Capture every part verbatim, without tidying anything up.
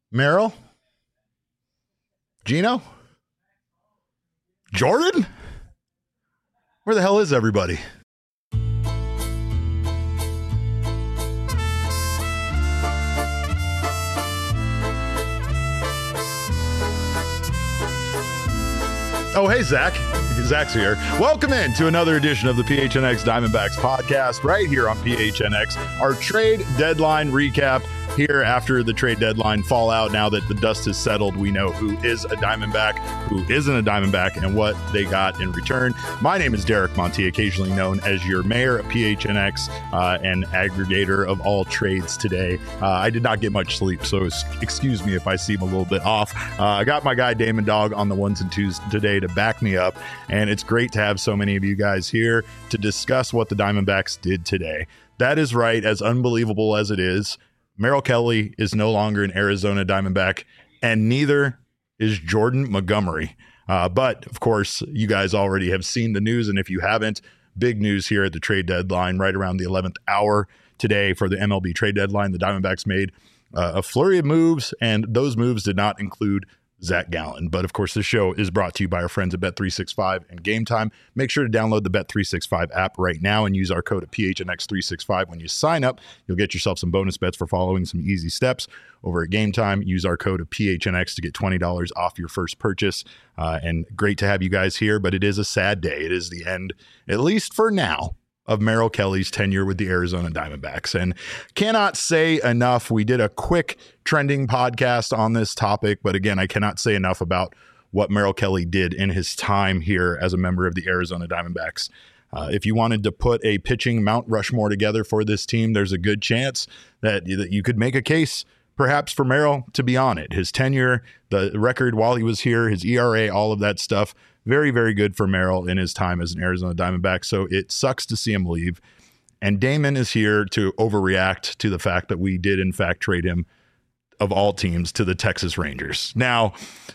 Merrill? Gino? Jordan? Where the hell is everybody? Oh, hey, Zach. Zach's here. Welcome in to another edition of the P H N X Diamondbacks podcast right here on P H N X. Our trade deadline recap here after the trade deadline fallout. Now that the dust has settled, we know who is a Diamondback, who isn't a Diamondback, and what they got in return. My name is Derek Monti, occasionally known as your mayor of P H N X uh, and aggregator of all trades today. Uh, I did not get much sleep, so excuse me if I seem a little bit off. Uh, I got my guy Damon Dog on the ones and twos today to back me up, and it's great to have so many of you guys here to discuss what the Diamondbacks did today. That is right, as unbelievable as it is, Merrill Kelly is no longer an Arizona Diamondback, and neither is Jordan Montgomery. Uh, but, of course, you guys already have seen the news, and if you haven't, big news here at the trade deadline right around the eleventh hour today for the M L B trade deadline. The Diamondbacks made uh, a flurry of moves, and those moves did not include Zach Gallen. But of course, this show is brought to you by our friends at Bet three sixty-five and Game Time. Make sure to download the Bet three sixty-five app right now and use our code of P H N X three sixty-five when you sign up. You'll get yourself some bonus bets for following some easy steps over at Game Time. Use our code of P H N X to get twenty dollars off your first purchase. Uh, and great to have you guys here, but it is a sad day. It is the end, at least for now, of Merrill Kelly's tenure with the Arizona Diamondbacks. And cannot say enough. We did a quick trending podcast on this topic, but again, I cannot say enough about what Merrill Kelly did in his time here as a member of the Arizona Diamondbacks. Uh, if you wanted to put a pitching Mount Rushmore together for this team, there's a good chance that, that you could make a case perhaps for Merrill to be on it. His tenure, the record while he was here, his E R A, all of that stuff. Very, very good for Merrill in his time as an Arizona Diamondback. So it sucks to see him leave. And Damon is here to overreact to the fact that we did, in fact, trade him, of all teams, to the Texas Rangers. Now,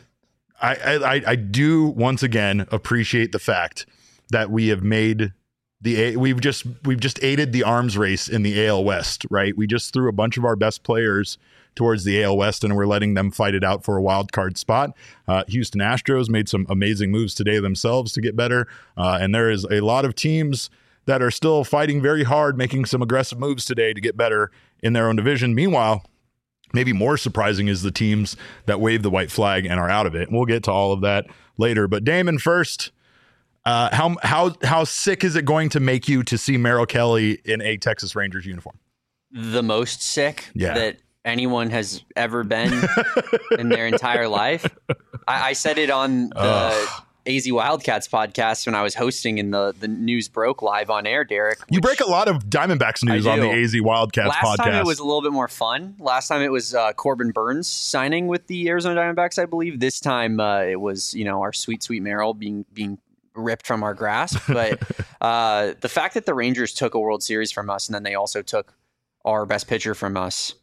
I, I, I do once again appreciate the fact that we have made the we've just we've just aided the arms race in the A L West, right? We just threw a bunch of our best players towards the A L West, and we're letting them fight it out for a wild card spot. Uh, Houston Astros made some amazing moves today themselves to get better, uh, and there is a lot of teams that are still fighting very hard, making some aggressive moves today to get better in their own division. Meanwhile, maybe more surprising is the teams that wave the white flag and are out of it. And we'll get to all of that later. But Damon, first, uh, how how how sick is it going to make you to see Merrill Kelly in a Texas Rangers uniform? The most sick yeah. that anyone has ever been in their entire life. I, I said it on the Ugh. A Z Wildcats podcast when I was hosting and the, the news broke live on air, Derek. You break a lot of Diamondbacks news on the A Z Wildcats Last podcast. Last time it was a little bit more fun. Last time it was uh, Corbin Burns signing with the Arizona Diamondbacks, I believe. This time uh, it was, you know, our sweet, sweet Merrill being being ripped from our grasp. But uh, the fact that the Rangers took a World Series from us and then they also took our best pitcher from us,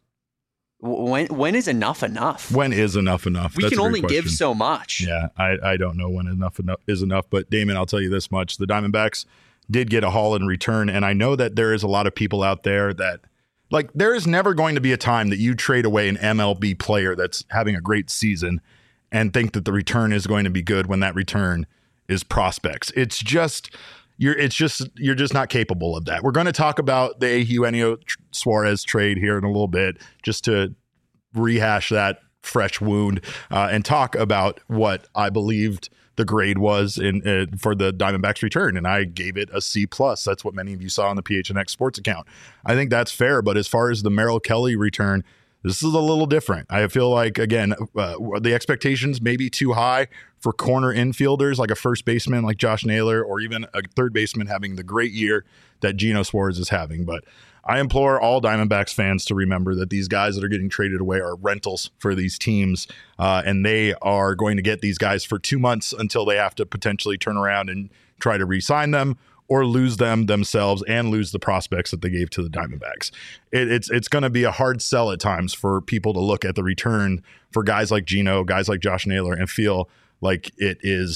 When when is enough enough? When is enough enough? We That's can a only great give question. so much. Yeah, I, I don't know when enough enough is enough. But Damon, I'll tell you this much: the Diamondbacks did get a haul in return, and I know that there is a lot of people out there that, like, there is never going to be a time that you trade away an M L B player that's having a great season and think that the return is going to be good when that return is prospects. It's just. You're it's just you're just not capable of that. We're going to talk about the Eugenio Suarez trade here in a little bit, just to rehash that fresh wound uh, and talk about what I believed the grade was in uh, for the Diamondbacks return, and I gave it a C plus. That's what many of you saw on the P H N X Sports account. I think that's fair, but as far as the Merrill Kelly return, this is a little different. I feel like, again, uh, the expectations may be too high for corner infielders like a first baseman like Josh Naylor, or even a third baseman having the great year that Gino Suarez is having. But I implore all Diamondbacks fans to remember that these guys that are getting traded away are rentals for these teams, uh, and they are going to get these guys for two months until they have to potentially turn around and try to re-sign them, or lose them themselves and lose the prospects that they gave to the Diamondbacks. It, it's it's going to be a hard sell at times for people to look at the return for guys like Gino, guys like Josh Naylor, and feel like it is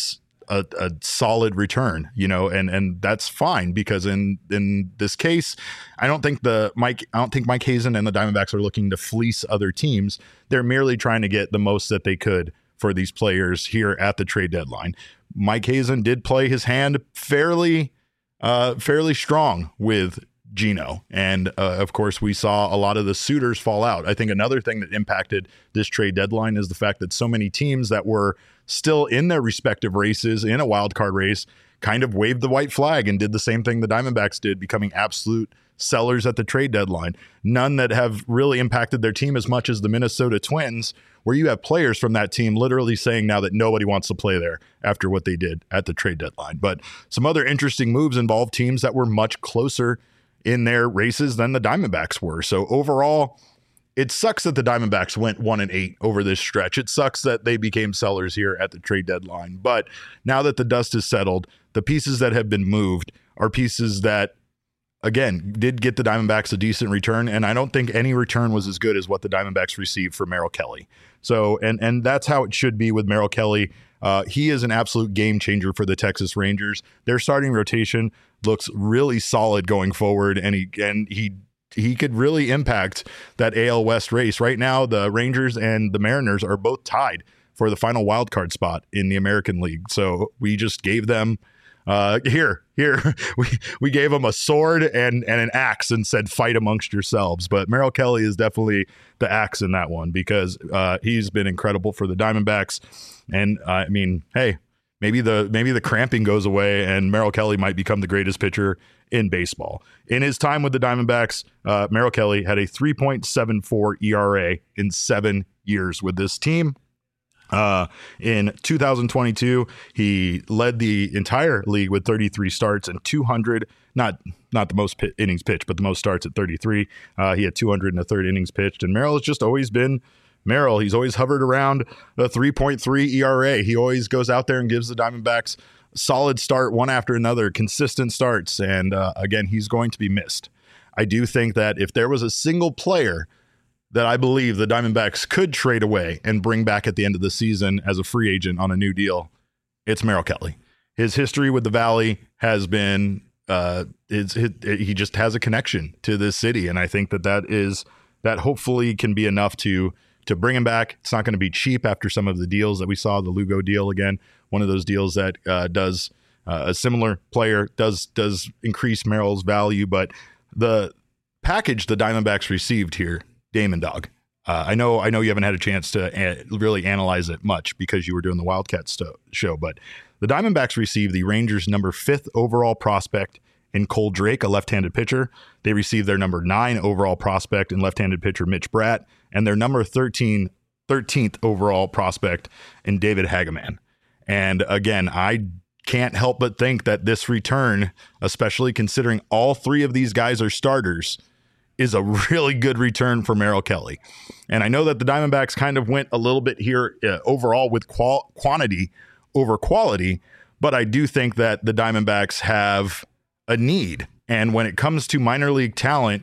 a, a solid return, you know, and and that's fine because in in this case, I don't think the Mike I don't think Mike Hazen and the Diamondbacks are looking to fleece other teams. They're merely trying to get the most that they could for these players here at the trade deadline. Mike Hazen did play his hand fairly uh, fairly strong with Gino. And uh, of course, we saw a lot of the suitors fall out. I think another thing that impacted this trade deadline is the fact that so many teams that were still in their respective races in a wild card race kind of waved the white flag and did the same thing the Diamondbacks did, becoming absolute sellers at the trade deadline. None that have really impacted their team as much as the Minnesota Twins, where you have players from that team literally saying now that nobody wants to play there after what they did at the trade deadline. But some other interesting moves involved teams that were much closer in their races than the Diamondbacks were. So overall, it sucks that the Diamondbacks went one and eight over this stretch. It sucks that they became sellers here at the trade deadline. But now that the dust is settled, the pieces that have been moved are pieces that, again, did get the Diamondbacks a decent return. And I don't think any return was as good as what the Diamondbacks received for Merrill Kelly. So, and and that's how it should be with Merrill Kelly. Uh, he is an absolute game changer for the Texas Rangers. Their starting rotation looks really solid going forward, and he and he he could really impact that A L West race. Right now, the Rangers and the Mariners are both tied for the final wild card spot in the American League. So we just gave them uh, here, here we we gave them a sword and and an axe and said, fight amongst yourselves. But Merrill Kelly is definitely the axe in that one because uh, he's been incredible for the Diamondbacks. And uh, I mean, hey, maybe the maybe the cramping goes away and Merrill Kelly might become the greatest pitcher in baseball. In his time with the Diamondbacks, uh, Merrill Kelly had a three point seven four E R A in seven years with this team. Uh, in two thousand twenty-two, he led the entire league with thirty-three starts and two hundred, not not the most pit, innings pitched, but the most starts at thirty-three. Uh, he had two hundred and a third innings pitched, and Merrill has just always been Merrill. He's always hovered around a three point three E R A. He always goes out there and gives the Diamondbacks solid start one after another, consistent starts. And uh, again, he's going to be missed. I do think that if there was a single player that I believe the Diamondbacks could trade away and bring back at the end of the season as a free agent on a new deal, it's Merrill Kelly. His history with the Valley has been, uh, it's, it, it, he just has a connection to this city. And I think that that is, that hopefully can be enough to to bring him back. It's not going to be cheap after some of the deals that we saw, the Lugo deal, again, one of those deals that uh, does uh, a similar player does does increase Merrill's value. But the package the Diamondbacks received here, Damon Dog, uh, I know I know you haven't had a chance to a- really analyze it much because you were doing the Wildcats sto- show, but the Diamondbacks received the Rangers' number fifth overall prospect in Cole Drake, a left-handed pitcher. They received their number nine overall prospect in left-handed pitcher Mitch Bratt, and their number thirteen, thirteenth overall prospect in David Hageman. And again, I can't help but think that this return, especially considering all three of these guys are starters, is a really good return for Merrill Kelly. And I know that the Diamondbacks kind of went a little bit here uh, overall with qual- quantity over quality, but I do think that the Diamondbacks have a need. And when it comes to minor league talent,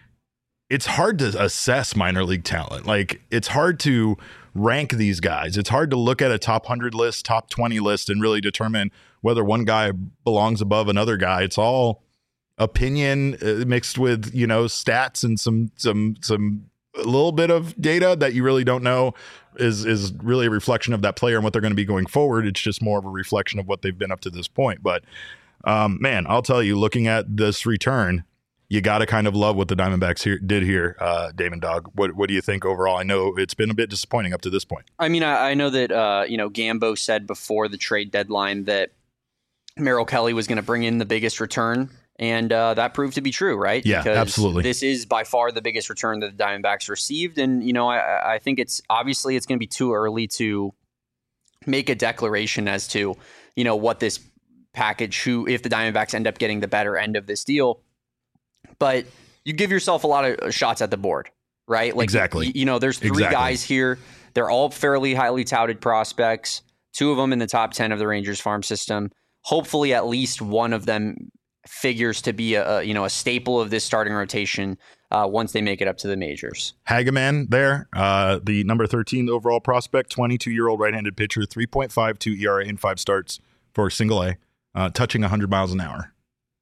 it's hard to assess minor league talent. Like, it's hard to rank these guys. It's hard to look at a top one hundred list, top twenty list, and really determine whether one guy belongs above another guy. It's all opinion uh, mixed with, you know, stats and some some some a little bit of data that you really don't know is is really a reflection of that player and what they're going to be going forward. It's just more of a reflection of what they've been up to this point. But Um, man, I'll tell you, looking at this return, you got to kind of love what the Diamondbacks here did here, uh, Damon Dog. What what do you think overall? I know it's been a bit disappointing up to this point. I mean, I, I know that, uh, you know, Gambo said before the trade deadline that Merrill Kelly was going to bring in the biggest return, and uh, that proved to be true, right? Yeah, because absolutely. This is by far the biggest return that the Diamondbacks received, and, you know, I, I think it's obviously it's going to be too early to make a declaration as to, you know, what this package, who, if the Diamondbacks end up getting the better end of this deal, but you give yourself a lot of shots at the board, right? Like, exactly. You, you know, there's three exactly. guys here. They're all fairly highly touted prospects. Two of them in the top ten of the Rangers farm system. Hopefully, at least one of them figures to be a, a you know a staple of this starting rotation uh, once they make it up to the majors. Hageman there, uh, the number thirteen overall prospect, twenty-two-year-old right-handed pitcher, three point five two E R A in five starts for single A, uh, touching one hundred miles an hour.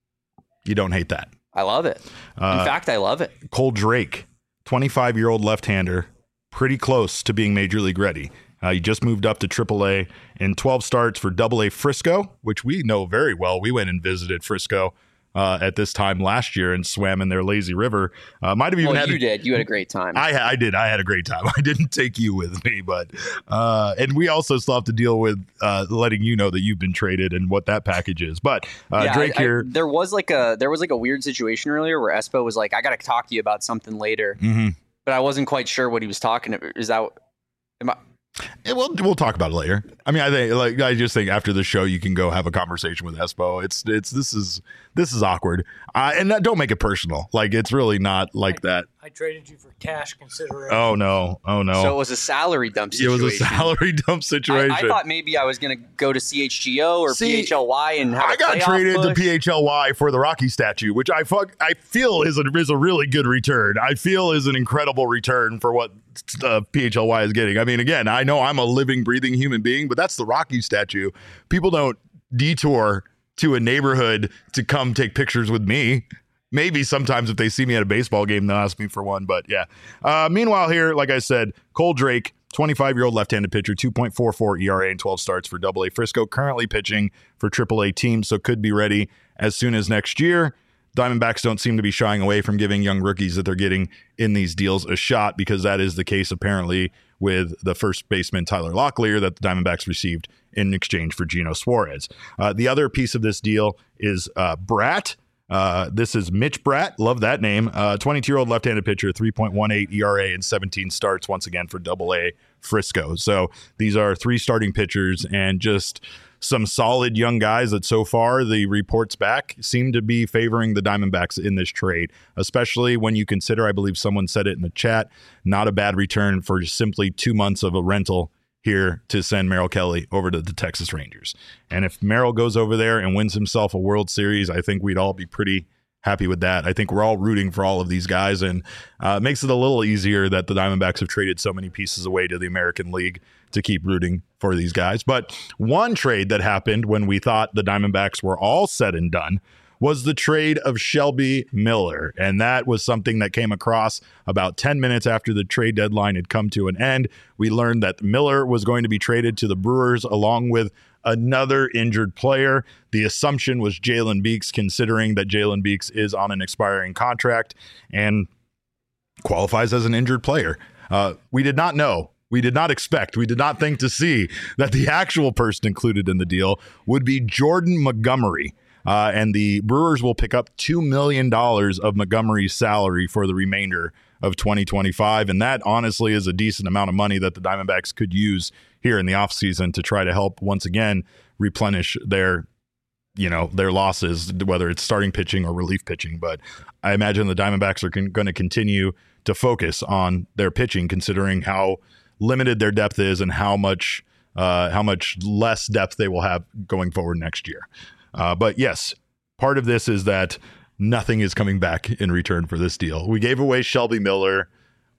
You don't hate that. I love it. Uh, In fact, I love it. Cole Drake, twenty-five-year-old left-hander, pretty close to being major league ready. Uh, he just moved up to triple A in twelve starts for double A Frisco, which we know very well. We went and visited Frisco uh, at this time last year and swam in their lazy river. Uh, might have even well, had you a, did. You had a great time. I, I did. I had a great time. I didn't take you with me, but uh, and we also still have to deal with uh, letting you know that you've been traded and what that package is. But uh, yeah, Drake I, here, I, there was like a there was like a weird situation earlier where Espo was like, "I got to talk to you about something later," mm-hmm. but I wasn't quite sure what he was talking about. Is that? Am I, And we'll we'll talk about it later. I mean, I think like I just think after the show you can go have a conversation with Espo. It's it's this is this is awkward, uh, and that, don't make it personal. Like it's really not like I, that. I traded you for cash consideration. Oh no! Oh no! So it was a salary dump it situation. was a salary dump situation. I, I thought maybe I was going to go to C H G O or See, P H L Y and have I a got playoff traded push. to P H L Y for the Rocky statue, which I fuck I feel is a is a really good return. I feel is an incredible return for what uh, P H L Y is getting. I mean, again, I know I'm a living, breathing human being, but that's the Rocky statue. People don't detour to a neighborhood to come take pictures with me. Maybe sometimes if they see me at a baseball game, they'll ask me for one. But yeah. Uh, meanwhile, here, like I said, Cole Drake, twenty-five-year-old left-handed pitcher, two point four four E R A in twelve starts for double A Frisco, currently pitching for triple A teams, so could be ready as soon as next year. Diamondbacks don't seem to be shying away from giving young rookies that they're getting in these deals a shot, because that is the case apparently with the first baseman Tyler Locklear that the Diamondbacks received in exchange for Gino Suarez. Uh, the other piece of this deal is uh, Bratt. Uh, this is Mitch Bratt. Love that name. Uh, twenty-two-year-old left-handed pitcher, three point one eight E R A in seventeen starts, once again for double A Frisco. So these are three starting pitchers and just some solid young guys that so far the reports back seem to be favoring the Diamondbacks in this trade, especially when you consider, I believe someone said it in the chat, not a bad return for simply two months of a rental here to send Merrill Kelly over to the Texas Rangers. And if Merrill goes over there and wins himself a World Series, I think we'd all be pretty happy with that. I think we're all rooting for all of these guys, and uh, it makes it a little easier that the Diamondbacks have traded so many pieces away to the American League to keep rooting for these guys. But one trade that happened when we thought the Diamondbacks were all said and done was the trade of Shelby Miller. And that was something that came across about ten minutes after the trade deadline had come to an end. We learned that Miller was going to be traded to the Brewers along with another injured player. The assumption was Jalen Beeks, considering that Jalen Beeks is on an expiring contract and qualifies as an injured player. Uh, we did not know. We did not expect, we did not think to see that the actual person included in the deal would be Jordan Montgomery. Uh, and the Brewers will pick up two million dollars of Montgomery's salary for the remainder of twenty twenty-five. And that honestly is a decent amount of money that the Diamondbacks could use here in the offseason to try to help once again replenish their, you know, their losses, whether it's starting pitching or relief pitching. But I imagine the Diamondbacks are con- going to continue to focus on their pitching, considering how limited their depth is and how much uh, how much less depth they will have going forward next year. Uh, but yes, part of this is that nothing is coming back in return for this deal. We gave away Shelby Miller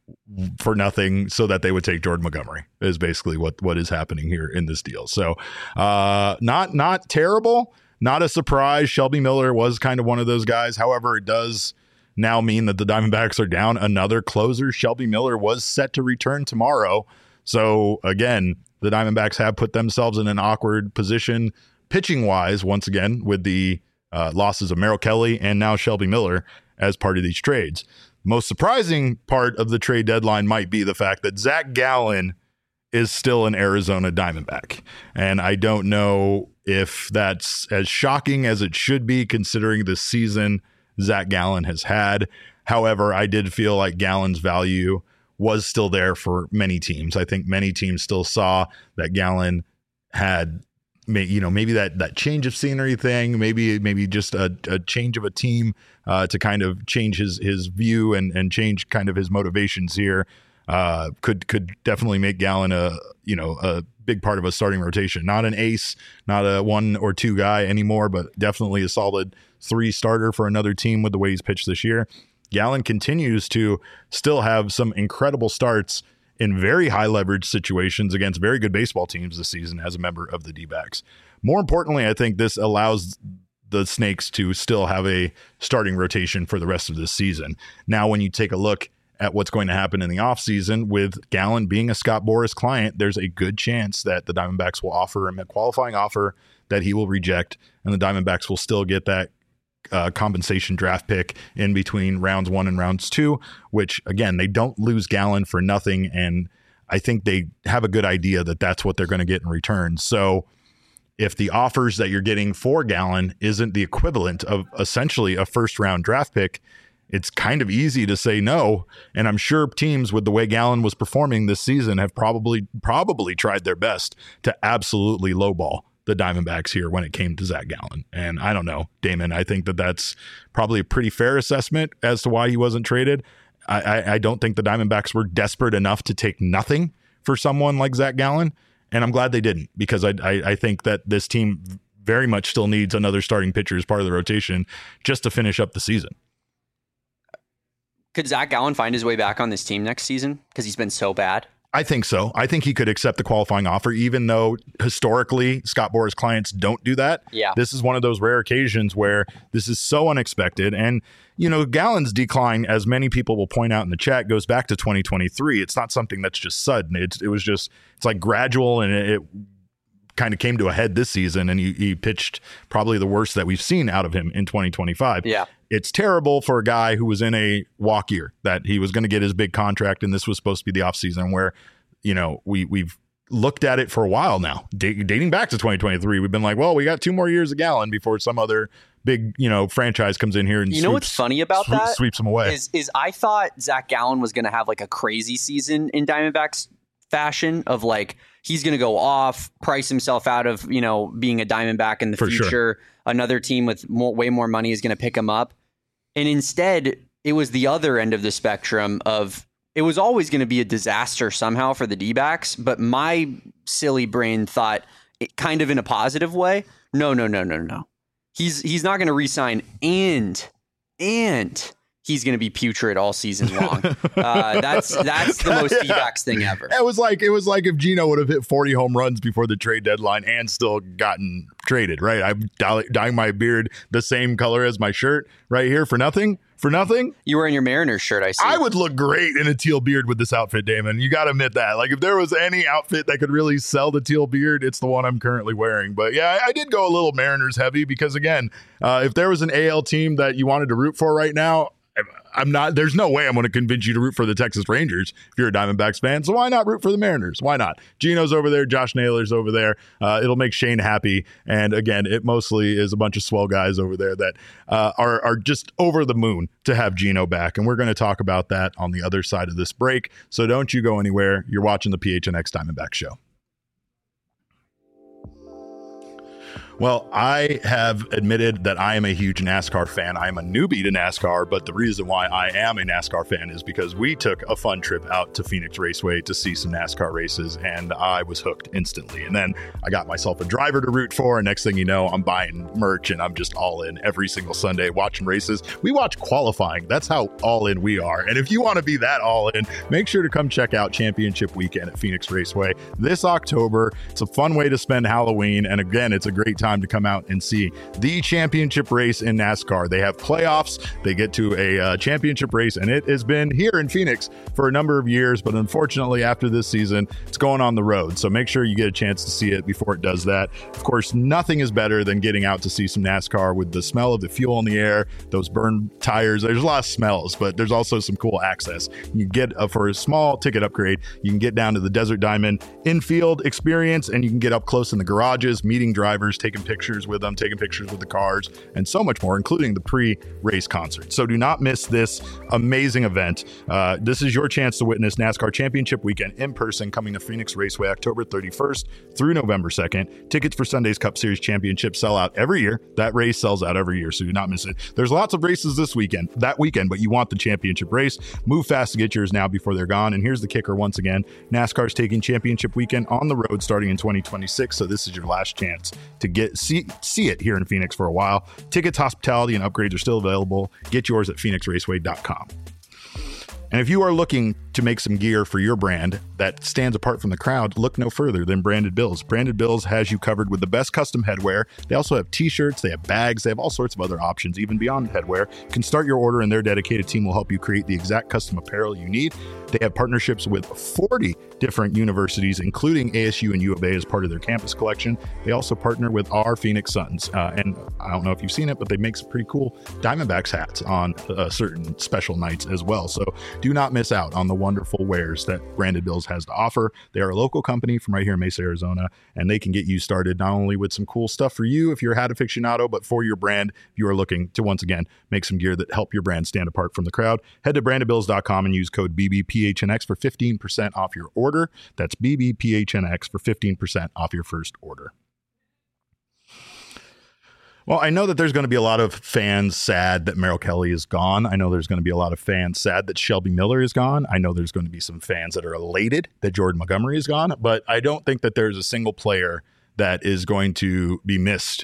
for nothing so that they would take Jordan Montgomery, is basically what, what is happening here in this deal. So uh, not not terrible, not a surprise. Shelby Miller was kind of one of those guys. However, it does now mean that the Diamondbacks are down another closer. Shelby Miller was set to return tomorrow. So again, the Diamondbacks have put themselves in an awkward position pitching wise, once again, with the uh, losses of Merrill Kelly and now Shelby Miller as part of these trades. Most surprising part of the trade deadline might be the fact that Zach Gallen is still an Arizona Diamondback. And I don't know if that's as shocking as it should be, considering the season Zach Gallen has had. However, I did feel like Gallen's value was still there for many teams. I think many teams still saw that Gallen had, you know, maybe that that change of scenery thing, maybe maybe just a, a change of a team uh, to kind of change his his view and and change kind of his motivations here. Uh, could could definitely make Gallen a you know a big part of a starting rotation. Not an ace, not a one or two guy anymore, but definitely a solid three starter for another team with the way he's pitched this year. Gallen continues to still have some incredible starts in very high leverage situations against very good baseball teams this season as a member of the D-backs. More importantly, I think this allows the Snakes to still have a starting rotation for the rest of this season. Now, when you take a look at what's going to happen in the offseason with Gallen being a Scott Boras client, there's a good chance that the Diamondbacks will offer him a qualifying offer that he will reject, and the Diamondbacks will still get that uh, compensation draft pick in between rounds one and rounds two, which, again, they don't lose Gallen for nothing, and I think they have a good idea that that's what they're going to get in return. So if the offers that you're getting for Gallen isn't the equivalent of essentially a first-round draft pick, it's kind of easy to say no. And I'm sure teams, with the way Gallen was performing this season, have probably probably tried their best to absolutely lowball the Diamondbacks here when it came to Zach Gallen. And I don't know, Damon, I think that that's probably a pretty fair assessment as to why he wasn't traded. I, I, I don't think the Diamondbacks were desperate enough to take nothing for someone like Zach Gallen. And I'm glad they didn't, because I, I, I think that this team very much still needs another starting pitcher as part of the rotation just to finish up the season. Could Zach Gallen find his way back on this team next season? Because he's been so bad. I think so. I think he could accept the qualifying offer, even though historically Scott Boras clients don't do that. Yeah. This is one of those rare occasions where this is so unexpected. And, you know, Gallen's decline, as many people will point out in the chat, goes back to twenty twenty-three. It's not something that's just sudden. It's, it was just, it's like gradual, and it, it kind of came to a head this season, and he, he pitched probably the worst that we've seen out of him in twenty twenty-five. Yeah. It's terrible for a guy who was in a walk year, that he was going to get his big contract, and this was supposed to be the offseason where, you know, we, we've looked at it for a while now, d- dating back to twenty twenty-three. We've been like, well, we got two more years of Gallen before some other big, you know, franchise comes in here and you know sweeps, what's funny about sweep, that sweeps them away. Is, is I thought Zach Gallen was going to have like a crazy season in Diamondbacks fashion of like, he's going to go off, price himself out of, you know, being a Diamondback in the For future. Sure. Another team with more, way more money is going to pick him up. And instead, it was the other end of the spectrum of, it was always going to be a disaster somehow for the D-backs, but my silly brain thought it kind of in a positive way. No, no, no, no, no. He's he's not going to re-sign, and and he's going to be putrid all season long. Uh, that's that's the most Yeah. D-backs thing ever. It was like it was like if Gino would have hit forty home runs before the trade deadline and still gotten traded, right? I'm dye- dyeing my beard the same color as my shirt right here for nothing. For nothing. You were in your Mariners shirt, I see. I would look great in a teal beard with this outfit, Damon. You got to admit that. Like, if there was any outfit that could really sell the teal beard, it's the one I'm currently wearing. But yeah, I, I did go a little Mariners heavy because, again, uh, if there was an A L team that you wanted to root for right now, I'm not, there's no way I'm going to convince you to root for the Texas Rangers if you're a Diamondbacks fan. So why not root for the Mariners? Why not? Gino's over there. Josh Naylor's over there. Uh, it'll make Shane happy. And again, it mostly is a bunch of swell guys over there that uh, are, are just over the moon to have Gino back. And we're going to talk about that on the other side of this break. So don't you go anywhere. You're watching the P H N X Diamondback Show. Well, I have admitted that I am a huge NASCAR fan. I am a newbie to NASCAR, but the reason why I am a NASCAR fan is because we took a fun trip out to Phoenix Raceway to see some NASCAR races, and I was hooked instantly. And then I got myself a driver to root for, and next thing you know, I'm buying merch, and I'm just all in every single Sunday watching races. We watch qualifying. That's how all in we are. And if you want to be that all in, make sure to come check out Championship Weekend at Phoenix Raceway this October. It's a fun way to spend Halloween, and again, it's a great time to come out and see the championship race in NASCAR. They have playoffs. They get to a uh, championship race, and it has been here in Phoenix for a number of years, but unfortunately after this season, it's going on the road. So make sure you get a chance to see it before it does that. Of course, nothing is better than getting out to see some NASCAR with the smell of the fuel in the air, those burned tires. There's a lot of smells, but there's also some cool access. You get uh, for a small ticket upgrade, you can get down to the Desert Diamond infield experience, and you can get up close in the garages, meeting drivers, taking pictures with them, taking pictures with the cars, and so much more, including the pre-race concert. So do not miss this amazing event. Uh, this is your chance to witness NASCAR Championship Weekend in person, coming to Phoenix Raceway October thirty-first through November second. Tickets for Sunday's Cup Series Championship sell out every year. That race sells out every year, so do not miss it. There's lots of races this weekend, that weekend, but you want the championship race. Move fast to get yours now before they're gone. And here's the kicker once again. NASCAR's taking Championship Weekend on the road starting in twenty twenty-six, so this is your last chance to get see see it here in Phoenix for a while. Tickets, hospitality, and upgrades are still available. Get yours at phoenix raceway dot com. And if you are looking to make some gear for your brand that stands apart from the crowd, look no further than Branded Bills. Branded Bills has you covered with the best custom headwear. They also have t-shirts, they have bags, they have all sorts of other options, even beyond headwear. You can start your order and their dedicated team will help you create the exact custom apparel you need. They have partnerships with forty different universities, including A S U and U of A as part of their campus collection. They also partner with our Phoenix Suns. Uh, and I don't know if you've seen it, but they make some pretty cool Diamondbacks hats on uh, certain special nights as well. So do not miss out on the wonderful wares that Branded Bills has to offer. They are a local company from right here in Mesa, Arizona, and they can get you started not only with some cool stuff for you if you're a hat aficionado, but for your brand if you are looking to, once again, make some gear that help your brand stand apart from the crowd. Head to branded bills dot com and use code B B P H N X for fifteen percent off your order. That's B B P H N X for fifteen percent off your first order. Well, I know that there's going to be a lot of fans sad that Merrill Kelly is gone. I know there's going to be a lot of fans sad that Shelby Miller is gone. I know there's going to be some fans that are elated that Jordan Montgomery is gone, but I don't think that there's a single player that is going to be missed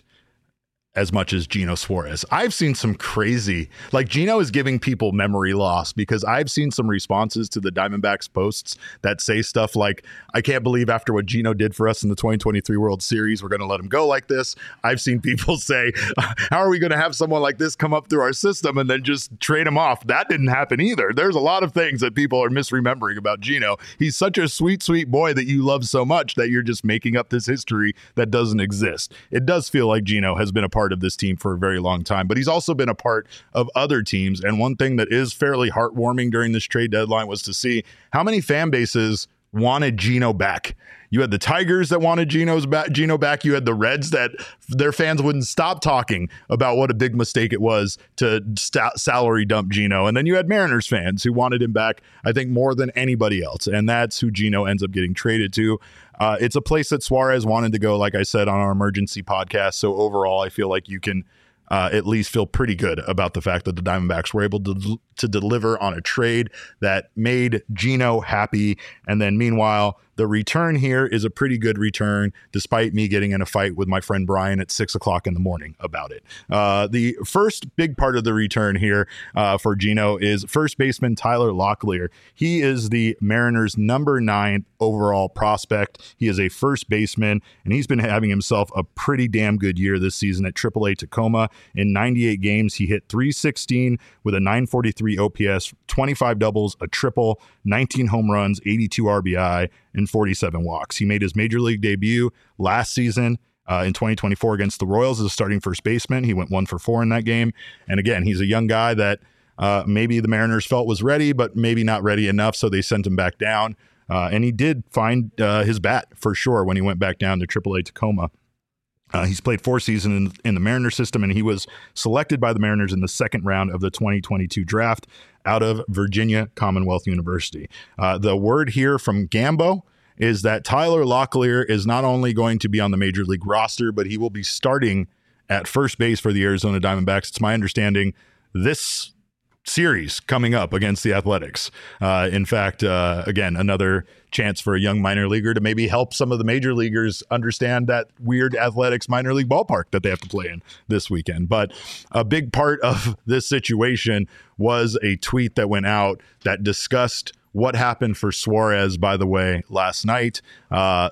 as much as Gino Suarez. I've seen some crazy, like Gino is giving people memory loss because I've seen some responses to the Diamondbacks posts that say stuff like, I can't believe after what Gino did for us in the twenty twenty-three World Series, we're going to let him go like this. I've seen people say, how are we going to have someone like this come up through our system and then just trade him off? That didn't happen either. There's a lot of things that people are misremembering about Gino. He's such a sweet, sweet boy that you love so much that you're just making up this history that doesn't exist. It does feel like Gino has been a part of this team for a very long time, but he's also been a part of other teams. And one thing that is fairly heartwarming during this trade deadline was to see how many fan bases wanted Gino back. You had the Tigers that wanted Gino's back, Gino back. You had the Reds that their fans wouldn't stop talking about what a big mistake it was to st- salary dump Gino. And then you had Mariners fans who wanted him back, I think, more than anybody else. And that's who Gino ends up getting traded to. Uh, it's a place that Suarez wanted to go, like I said, on our emergency podcast. So overall, I feel like you can uh, at least feel pretty good about the fact that the Diamondbacks were able to, to deliver on a trade that made Gino happy. And then meanwhile, the return here is a pretty good return, despite me getting in a fight with my friend Brian at six o'clock in the morning about it. Uh, the first big part of the return here uh, for Gino is first baseman Tyler Locklear. He is the Mariners' number nine overall prospect. He is a first baseman, and he's been having himself a pretty damn good year this season at triple A Tacoma. In ninety-eight games, he hit three sixteen with a nine forty-three O P S, twenty-five doubles, a triple, nineteen home runs, eighty-two R B I, and forty-seven walks. He made his major league debut last season uh, in twenty twenty-four against the Royals as a starting first baseman. He went one for four in that game. And again, he's a young guy that uh, maybe the Mariners felt was ready, but maybe not ready enough, so they sent him back down. Uh, and he did find uh, his bat for sure when he went back down to triple A Tacoma. Uh, he's played four seasons in, in the Mariners system, and he was selected by the Mariners in the second round of the twenty twenty-two draft out of Virginia Commonwealth University. Uh, the word here from Gambo is that Tyler Locklear is not only going to be on the major league roster, but he will be starting at first base for the Arizona Diamondbacks. It's my understanding this series coming up against the Athletics. Uh, in fact, uh, again, another chance for a young minor leaguer to maybe help some of the major leaguers understand that weird Athletics minor league ballpark that they have to play in this weekend. But a big part of this situation was a tweet that went out that discussed what happened for Suarez, by the way, last night. Uh,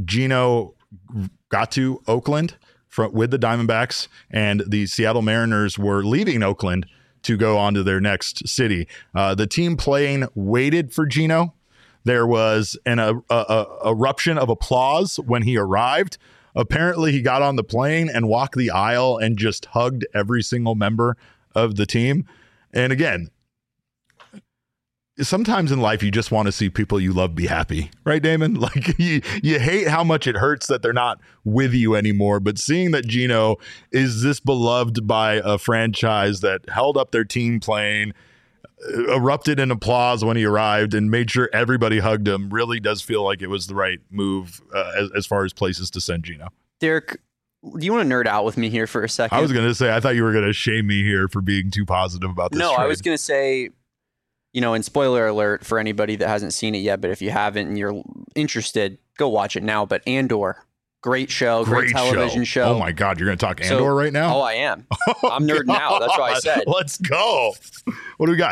Gino got to Oakland for, with the Diamondbacks, and the Seattle Mariners were leaving Oakland to go on to their next city. Uh, the team plane waited for Gino. There was an a, a, a eruption of applause when he arrived. Apparently, he got on the plane and walked the aisle and just hugged every single member of the team. And again, sometimes in life, you just want to see people you love be happy, right, Damon? Like you, you hate how much it hurts that they're not with you anymore. But seeing that Gino is this beloved by a franchise that held up their team plane, erupted in applause when he arrived, and made sure everybody hugged him, really does feel like it was the right move uh, as, as far as places to send Gino. Derek, do you want to nerd out with me here for a second? I was going to say, I thought you were going to shame me here for being too positive about this. No, trade. I was going to say, you know, and spoiler alert for anybody that hasn't seen it yet, but if you haven't and you're interested, go watch it now. But Andor, great show, great, great television show. show. Oh my God, you're going to talk Andor so, right now? Oh, I am. I'm nerding out. That's what I said. Let's go. What do we got?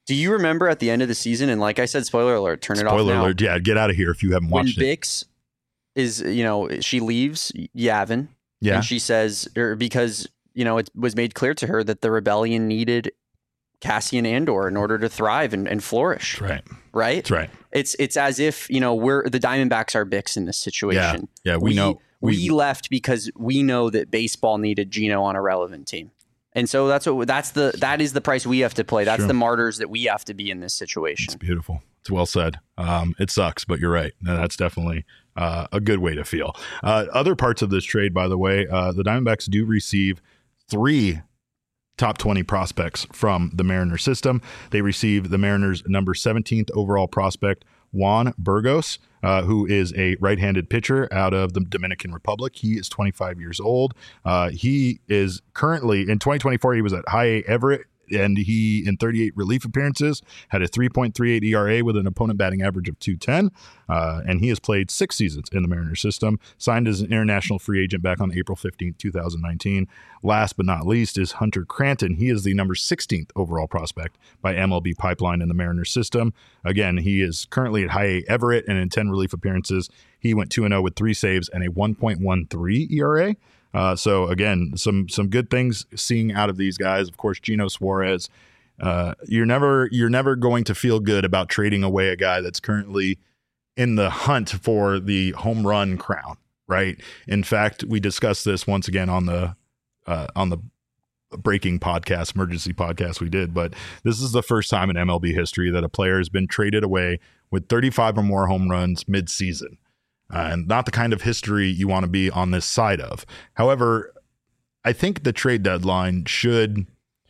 Do you remember at the end of the season? And like I said, spoiler alert, turn Spoiler it off now. alert. Yeah, get out of here if you haven't When watched it. Bix is, you know, she leaves Yavin. Yeah. And she says, or because, you know, it was made clear to her that the rebellion needed Cassian Andor in order to thrive and, and flourish. That's right. Right? That's right. It's it's as if, you know, we're the Diamondbacks are Bix in this situation. Yeah, yeah we, we know. We, we left because we know that baseball needed Gino on a relevant team. And so that's what that's the that is the price we have to play. That's Sure. the martyrs that we have to be in this situation. It's beautiful. It's well said. Um, it sucks, but you're right. No, that's definitely uh, a good way to feel. Uh, other parts of this trade, by the way, uh, the Diamondbacks do receive three top twenty prospects from the Mariners system. They receive the Mariners' number seventeenth overall prospect, Juan Burgos, uh, who is a right-handed pitcher out of the Dominican Republic. He is twenty-five years old. Uh, he is currently, in twenty twenty-four, he was at High A Everett, and he, in thirty-eight relief appearances, had a three point three eight E R A with an opponent batting average of two ten. Uh, and he has played six seasons in the Mariners system, signed as an international free agent back on April fifteenth, twenty nineteen. Last but not least is Hunter Cranton. He is the number sixteenth overall prospect by M L B Pipeline in the Mariners system. Again, he is currently at High A Everett, and in ten relief appearances, he went two and oh with three saves and a one point one three E R A. Uh, so again, some some good things seeing out of these guys. Of course, Gino Suarez. Uh, you're never you're never going to feel good about trading away a guy that's currently in the hunt for the home run crown, right? In fact, we discussed this once again on the uh, on the breaking podcast, emergency podcast we did. But this is the first time in M L B history that a player has been traded away with thirty-five or more home runs mid-season. Uh, and not the kind of history you want to be on this side of. However, I think the trade deadline should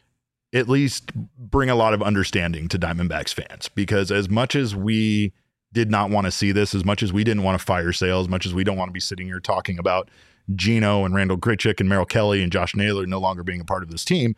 at least bring a lot of understanding to Diamondbacks fans, because as much as we did not want to see this, as much as we didn't want to fire sale, as much as we don't want to be sitting here talking about Gino and Randall Grichuk and Merrill Kelly and Josh Naylor no longer being a part of this team,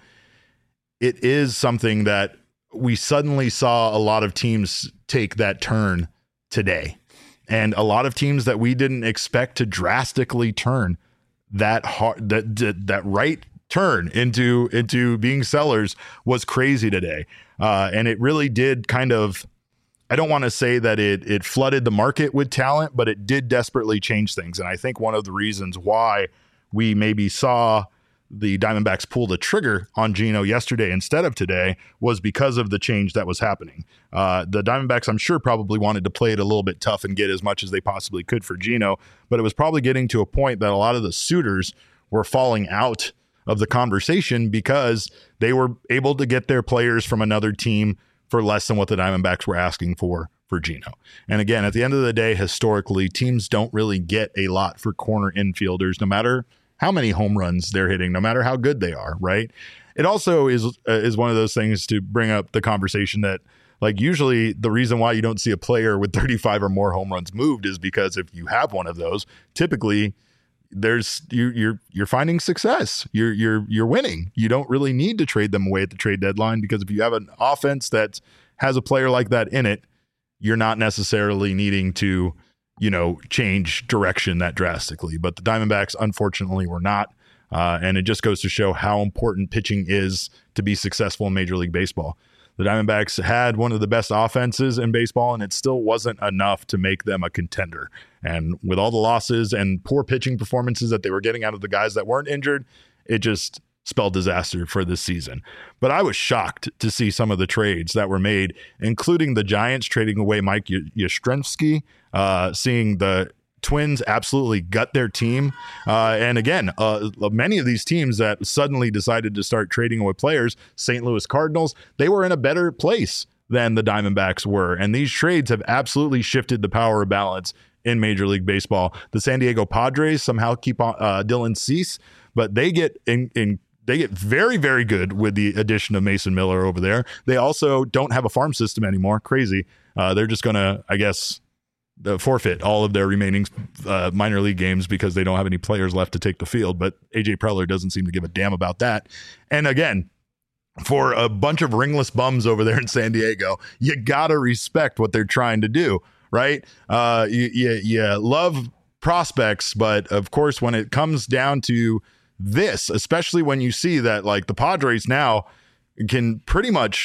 it is something that we suddenly saw a lot of teams take that turn today. And a lot of teams that we didn't expect to drastically turn that hard, that that, that right turn into into being sellers was crazy today. Uh, and it really did kind of, I don't want to say that it it flooded the market with talent, but it did desperately change things. And I think one of the reasons why we maybe saw the Diamondbacks pull the trigger on Gino yesterday instead of today was because of the change that was happening. Uh, the Diamondbacks, I'm sure, probably wanted to play it a little bit tough and get as much as they possibly could for Gino, but it was probably getting to a point that a lot of the suitors were falling out of the conversation because they were able to get their players from another team for less than what the Diamondbacks were asking for for Gino. And again, at the end of the day, historically, teams don't really get a lot for corner infielders, no matter how many home runs they're hitting, no matter how good they are, right? It also is uh, is one of those things to bring up the conversation that, like, usually the reason why you don't see a player with thirty-five or more home runs moved is because if you have one of those, typically there's you, you're you're finding success. You're you're you're winning. You don't really need to trade them away at the trade deadline, because if you have an offense that has a player like that in it, you're not necessarily needing to, you know, change direction that drastically. But the Diamondbacks, unfortunately, were not. Uh, and it just goes to show how important pitching is to be successful in Major League Baseball. The Diamondbacks had one of the best offenses in baseball, and it still wasn't enough to make them a contender. And with all the losses and poor pitching performances that they were getting out of the guys that weren't injured, it just spelled disaster for this season. But I was shocked to see some of the trades that were made, including the Giants trading away Mike Yastrzemski, uh, seeing the Twins absolutely gut their team. Uh, and again, uh, many of these teams that suddenly decided to start trading away players, Saint Louis Cardinals, they were in a better place than the Diamondbacks were. And these trades have absolutely shifted the power of balance in Major League Baseball. The San Diego Padres somehow keep on uh, Dylan Cease, but they get in, in They get very, very good with the addition of Mason Miller over there. They also don't have a farm system anymore. Crazy. Uh, they're just going to, I guess, the forfeit all of their remaining uh, minor league games because they don't have any players left to take the field. But A J Preller doesn't seem to give a damn about that. And again, for a bunch of ringless bums over there in San Diego, you got to respect what they're trying to do, right? Uh, you, you, you love prospects, but of course, when it comes down to this, especially when you see that, like, the Padres now can pretty much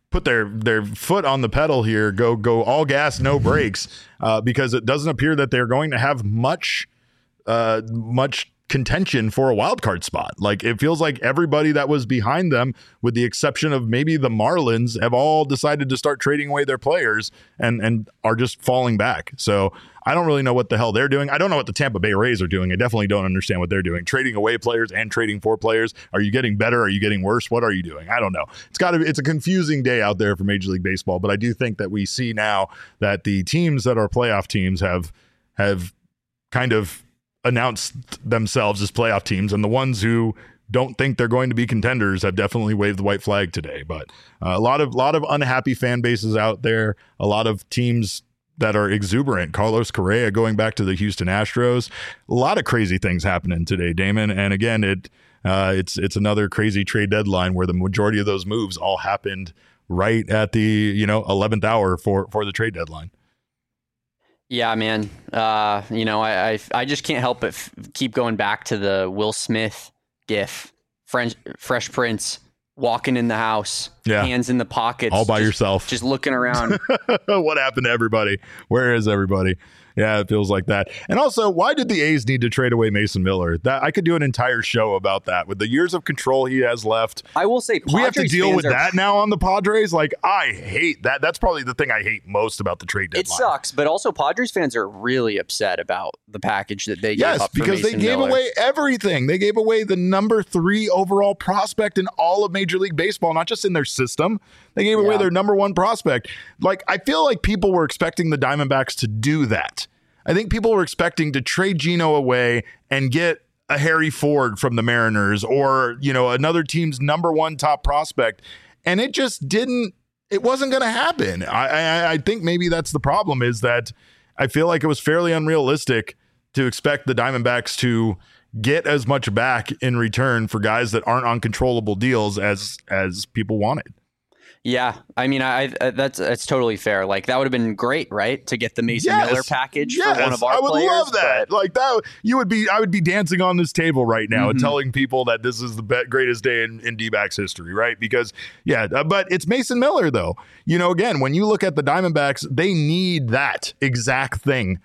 put their their foot on the pedal here, go go all gas, no brakes, uh, because it doesn't appear that they're going to have much uh, much contention for a wild card spot. Like, it feels like everybody that was behind them, with the exception of maybe the Marlins, have all decided to start trading away their players and and are just falling back. So I don't really know what the hell they're doing. I don't know what the Tampa Bay Rays are doing. I definitely don't understand what they're doing. Trading away players and trading for players. Are you getting better? Are you getting worse? What are you doing? I don't know. It's got to it's a confusing day out there for Major League Baseball, but I do think that we see now that the teams that are playoff teams have have kind of announced themselves as playoff teams, and the ones who don't think they're going to be contenders have definitely waved the white flag today. But uh, a lot of lot of unhappy fan bases out there, a lot of teams that are exuberant. Carlos Correa going back to the Houston Astros, a lot of crazy things happening today, Damon. And again, it uh, it's it's another crazy trade deadline where the majority of those moves all happened right at the you know eleventh hour for for the trade deadline. Yeah, man. Uh, you know, I, I I just can't help but f- keep going back to the Will Smith gif, French, Fresh Prince walking in the house, yeah. hands in the pockets, all by just, yourself, just looking around. What happened to everybody? Where is everybody? Yeah, it feels like that. And also, why did the A's need to trade away Mason Miller? That I could do an entire show about that. With the years of control he has left, I will say, Padres we have to deal with are, that now on the Padres. Like, I hate that. That's probably the thing I hate most about the trade deadline. It sucks, but also Padres fans are really upset about the package that they yes, gave up for because Mason they gave Miller. away everything. They gave away the number three overall prospect in all of Major League Baseball, not just in their system. They gave away Yeah. their number one prospect. Like, I feel like people were expecting the Diamondbacks to do that. I think people were expecting to trade Geno away and get a Harry Ford from the Mariners, or, you know, another team's number one top prospect. And it just didn't, it wasn't going to happen. I, I, I think maybe that's the problem, is that I feel like it was fairly unrealistic to expect the Diamondbacks to get as much back in return for guys that aren't on controllable deals as, as people wanted. Yeah, I mean, I, I that's that's totally fair. Like, that would have been great, right, to get the Mason Yes. Miller package Yes. for one of our I would players. love that. but- Like that, you would be. I would be dancing on this table right now and Mhm. telling people that this is the be- greatest day in, in D-backs history, right? Because yeah, uh, but it's Mason Miller though. You know, again, when you look at the Diamondbacks, they need that exact thing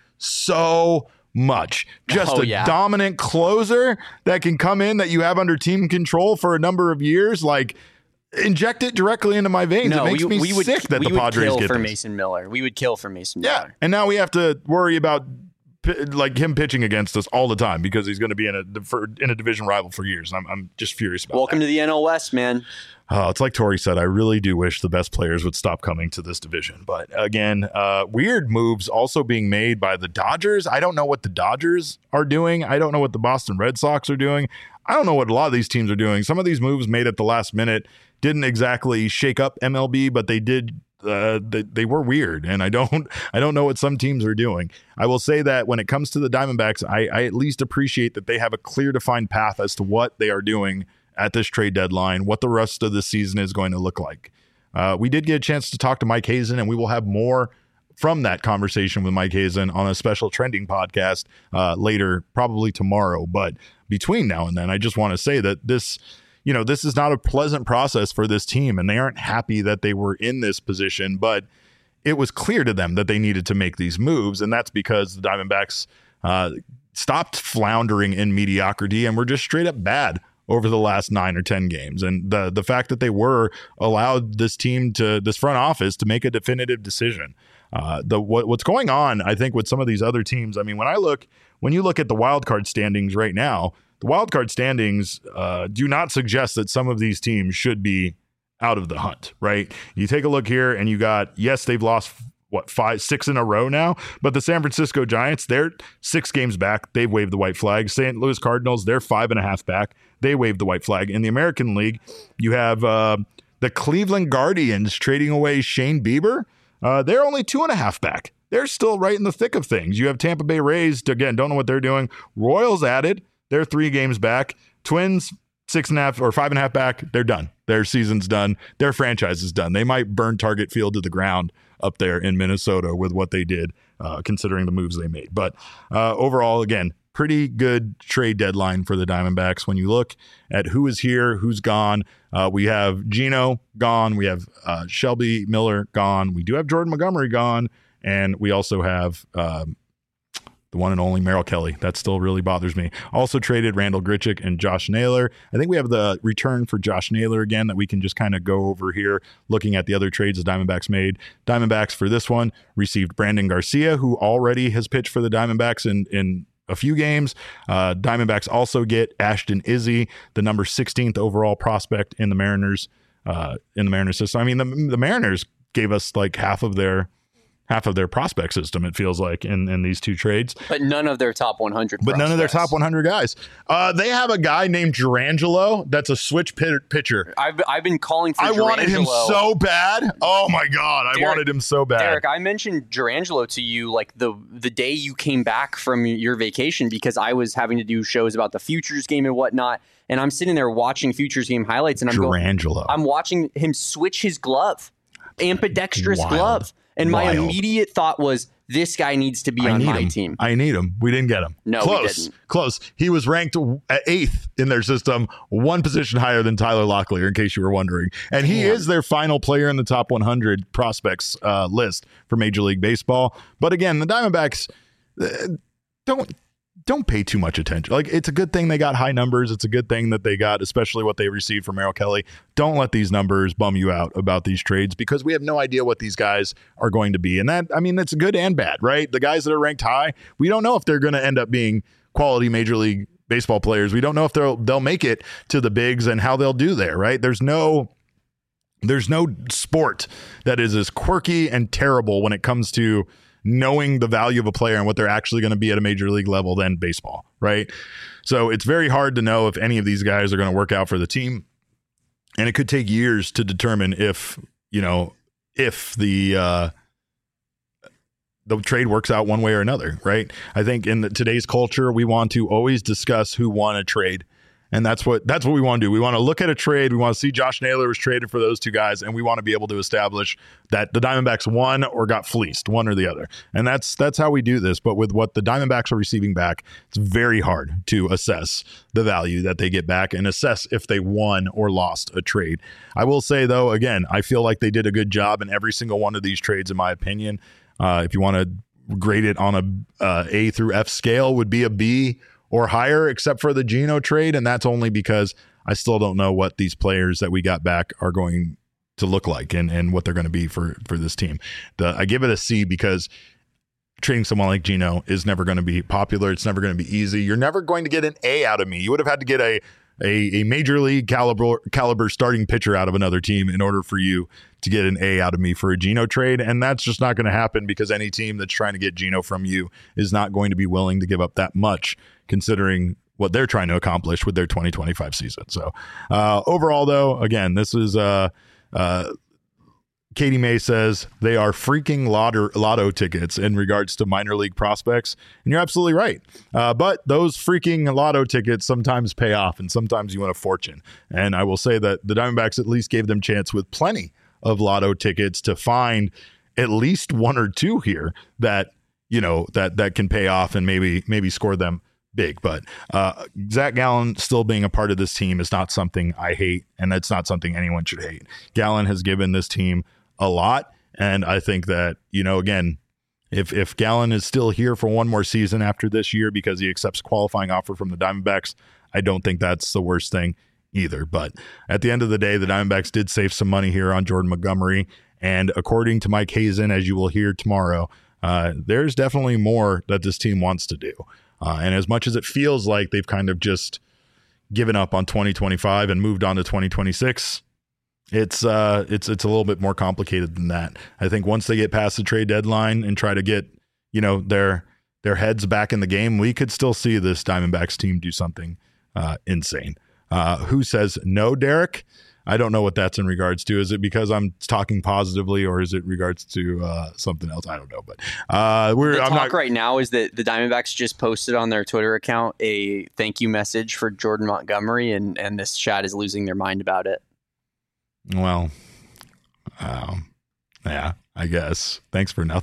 so much. Just Oh, a yeah. dominant closer that can come in, that you have under team control for a number of years, like. Inject it directly into my veins. No, it makes we, me we would, sick that we the would Padres kill get for this. Mason Miller. We would kill for Mason Yeah, Miller. and now we have to worry about p- like him pitching against us all the time because he's going to be in a for, in a division rival for years. I'm I'm just furious about. Welcome that. to the N L West, man. Oh, it's like Tori said. I really do wish the best players would stop coming to this division. But again, uh, weird moves also being made by the Dodgers. I don't know what the Dodgers are doing. I don't know what the Boston Red Sox are doing. I don't know what a lot of these teams are doing. Some of these moves made at the last minute didn't exactly shake up M L B, but they did. Uh, they, they were weird, and I don't. I don't know what some teams are doing. I will say that when it comes to the Diamondbacks, I, I at least appreciate that they have a clear, defined path as to what they are doing at this trade deadline, what the rest of the season is going to look like. Uh, we did get a chance to talk to Mike Hazen, and we will have more from that conversation with Mike Hazen on a special trending podcast uh, later, probably tomorrow. But between now and then, I just want to say that this, you know, this is not a pleasant process for this team, and they aren't happy that they were in this position, but it was clear to them that they needed to make these moves. And that's because the Diamondbacks uh, stopped floundering in mediocrity and were just straight up bad over the last nine or ten games. And the the fact that they were allowed this team to, this front office to make a definitive decision. Uh, the what, what's going on, I think, with some of these other teams. I mean, when I look, when you look at the wild card standings right now, the wild card standings uh, do not suggest that some of these teams should be out of the hunt, right? You take a look here and you got, yes, they've lost what, five, six in a row now, but the San Francisco Giants, they're six games back. They've waved the white flag. Saint Louis Cardinals, they're five and a half back. They waved the white flag. In the American League, you have uh, the Cleveland Guardians trading away Shane Bieber. Uh, they're only two and a half back. They're still right in the thick of things. You have Tampa Bay Rays, again, don't know what they're doing. Royals added. They're three games back. Twins, six and a half or five and a half back. They're done. Their season's done. Their franchise is done. They might burn Target Field to the ground up there in Minnesota with what they did, uh, considering the moves they made. But uh, overall, again, pretty good trade deadline for the Diamondbacks. When you look at who is here, who's gone, uh, we have Gino gone. We have uh, Shelby Miller gone. We do have Jordan Montgomery gone. And we also have um, the one and only Merrill Kelly. That still really bothers me. Also traded Randall Grichuk and Josh Naylor. I think we have the return for Josh Naylor again that we can just kind of go over here looking at the other trades the Diamondbacks made. Diamondbacks for this one received Brandon Garcia, who already has pitched for the Diamondbacks in, in a few games. Uh, Diamondbacks also get Ashton Izzy, the number sixteenth overall prospect in the Mariners, uh, in the Mariners system. I mean, the, the Mariners gave us like half of their half of their prospect system, it feels like, in, in these two trades. But none of their top one hundred But prospects. none of their top one hundred guys. Uh, they have a guy named Durangelo that's a switch pit- pitcher. I've, I've been calling for I Durangelo. wanted him so bad. Oh, my God. I Derek, wanted him so bad. Derek, I mentioned Durangelo to you like the, the day you came back from your vacation because I was having to do shows about the Futures game and whatnot. And I'm sitting there watching Futures game highlights and I'm Durangelo. going, I'm watching him switch his glove, ambidextrous Wild. glove. And my Wild. immediate thought was, this guy needs to be I on need my him. team. I need him. We didn't get him. No, we close, didn't. Close. He was ranked at eighth in their system, one position higher than Tyler Locklear, in case you were wondering. And he Damn. is their final player in the top one hundred prospects uh, list for Major League Baseball. But again, the Diamondbacks uh, don't don't pay too much attention. Like, it's a good thing they got high numbers. It's a good thing that they got, especially what they received from Merrill Kelly. Don't let these numbers bum you out about these trades because we have no idea what these guys are going to be. And that, I mean, that's good and bad, right? The guys that are ranked high, we don't know if they're going to end up being quality Major League Baseball players. We don't know if they'll they'll make it to the bigs and how they'll do there, right? There's no there's no sport that is as quirky and terrible when it comes to knowing the value of a player and what they're actually going to be at a major league level than baseball, right? So it's very hard to know if any of these guys are going to work out for the team. And it could take years to determine if, you know, if the uh, the trade works out one way or another, right? I think in the, today's culture, we want to always discuss who won a trade. And that's what that's what we want to do. We want to look at a trade. We want to see Josh Naylor was traded for those two guys, and we want to be able to establish that the Diamondbacks won or got fleeced, one or the other. And that's that's how we do this. But with what the Diamondbacks are receiving back, it's very hard to assess the value that they get back and assess if they won or lost a trade. I will say, though, again, I feel like they did a good job in every single one of these trades, in my opinion. Uh, if you want to grade it on a uh, A through F scale, would be a B or higher, except for the Gino trade. And that's only because I still don't know what these players that we got back are going to look like and, and what they're going to be for, for this team. The, I give it a C because trading someone like Gino is never going to be popular. It's never going to be easy. You're never going to get an A out of me. You would have had to get a, a, a major league caliber, caliber starting pitcher out of another team in order for you to get an A out of me for a Gino trade. And that's just not going to happen because any team that's trying to get Gino from you is not going to be willing to give up that much, considering what they're trying to accomplish with their twenty twenty-five season. So uh, overall, though, again, this is uh, uh, Katie May says they are freaking lotto, lotto tickets in regards to minor league prospects. And you're absolutely right. Uh, but those freaking lotto tickets sometimes pay off and sometimes you win a fortune. And I will say that the Diamondbacks at least gave them chance with plenty of lotto tickets to find at least one or two here that, you know, that, that can pay off and maybe, maybe score them big. But uh, Zach Gallen still being a part of this team is not something I hate, and it's not something anyone should hate. Gallen has given this team a lot, and I think that, you know, again, if if Gallen is still here for one more season after this year because he accepts a qualifying offer from the Diamondbacks, I don't think that's the worst thing either. But at the end of the day, the Diamondbacks did save some money here on Jordan Montgomery, and according to Mike Hazen, as you will hear tomorrow, uh, there's definitely more that this team wants to do. Uh, and as much as it feels like they've kind of just given up on twenty twenty-five and moved on to twenty twenty-six, it's uh, it's it's a little bit more complicated than that. I think once they get past the trade deadline and try to get, you know, their their heads back in the game, we could still see this Diamondbacks team do something uh, insane. Uh, who says no, Derek? I don't know what that's in regards to. Is it because I'm talking positively, or is it regards to uh, something else? I don't know. But uh, we're the I'm talk not right now is that the Diamondbacks just posted on their Twitter account a thank you message for Jordan Montgomery, and and this chat is losing their mind about it. Well, um, yeah, I guess. Thanks for nothing.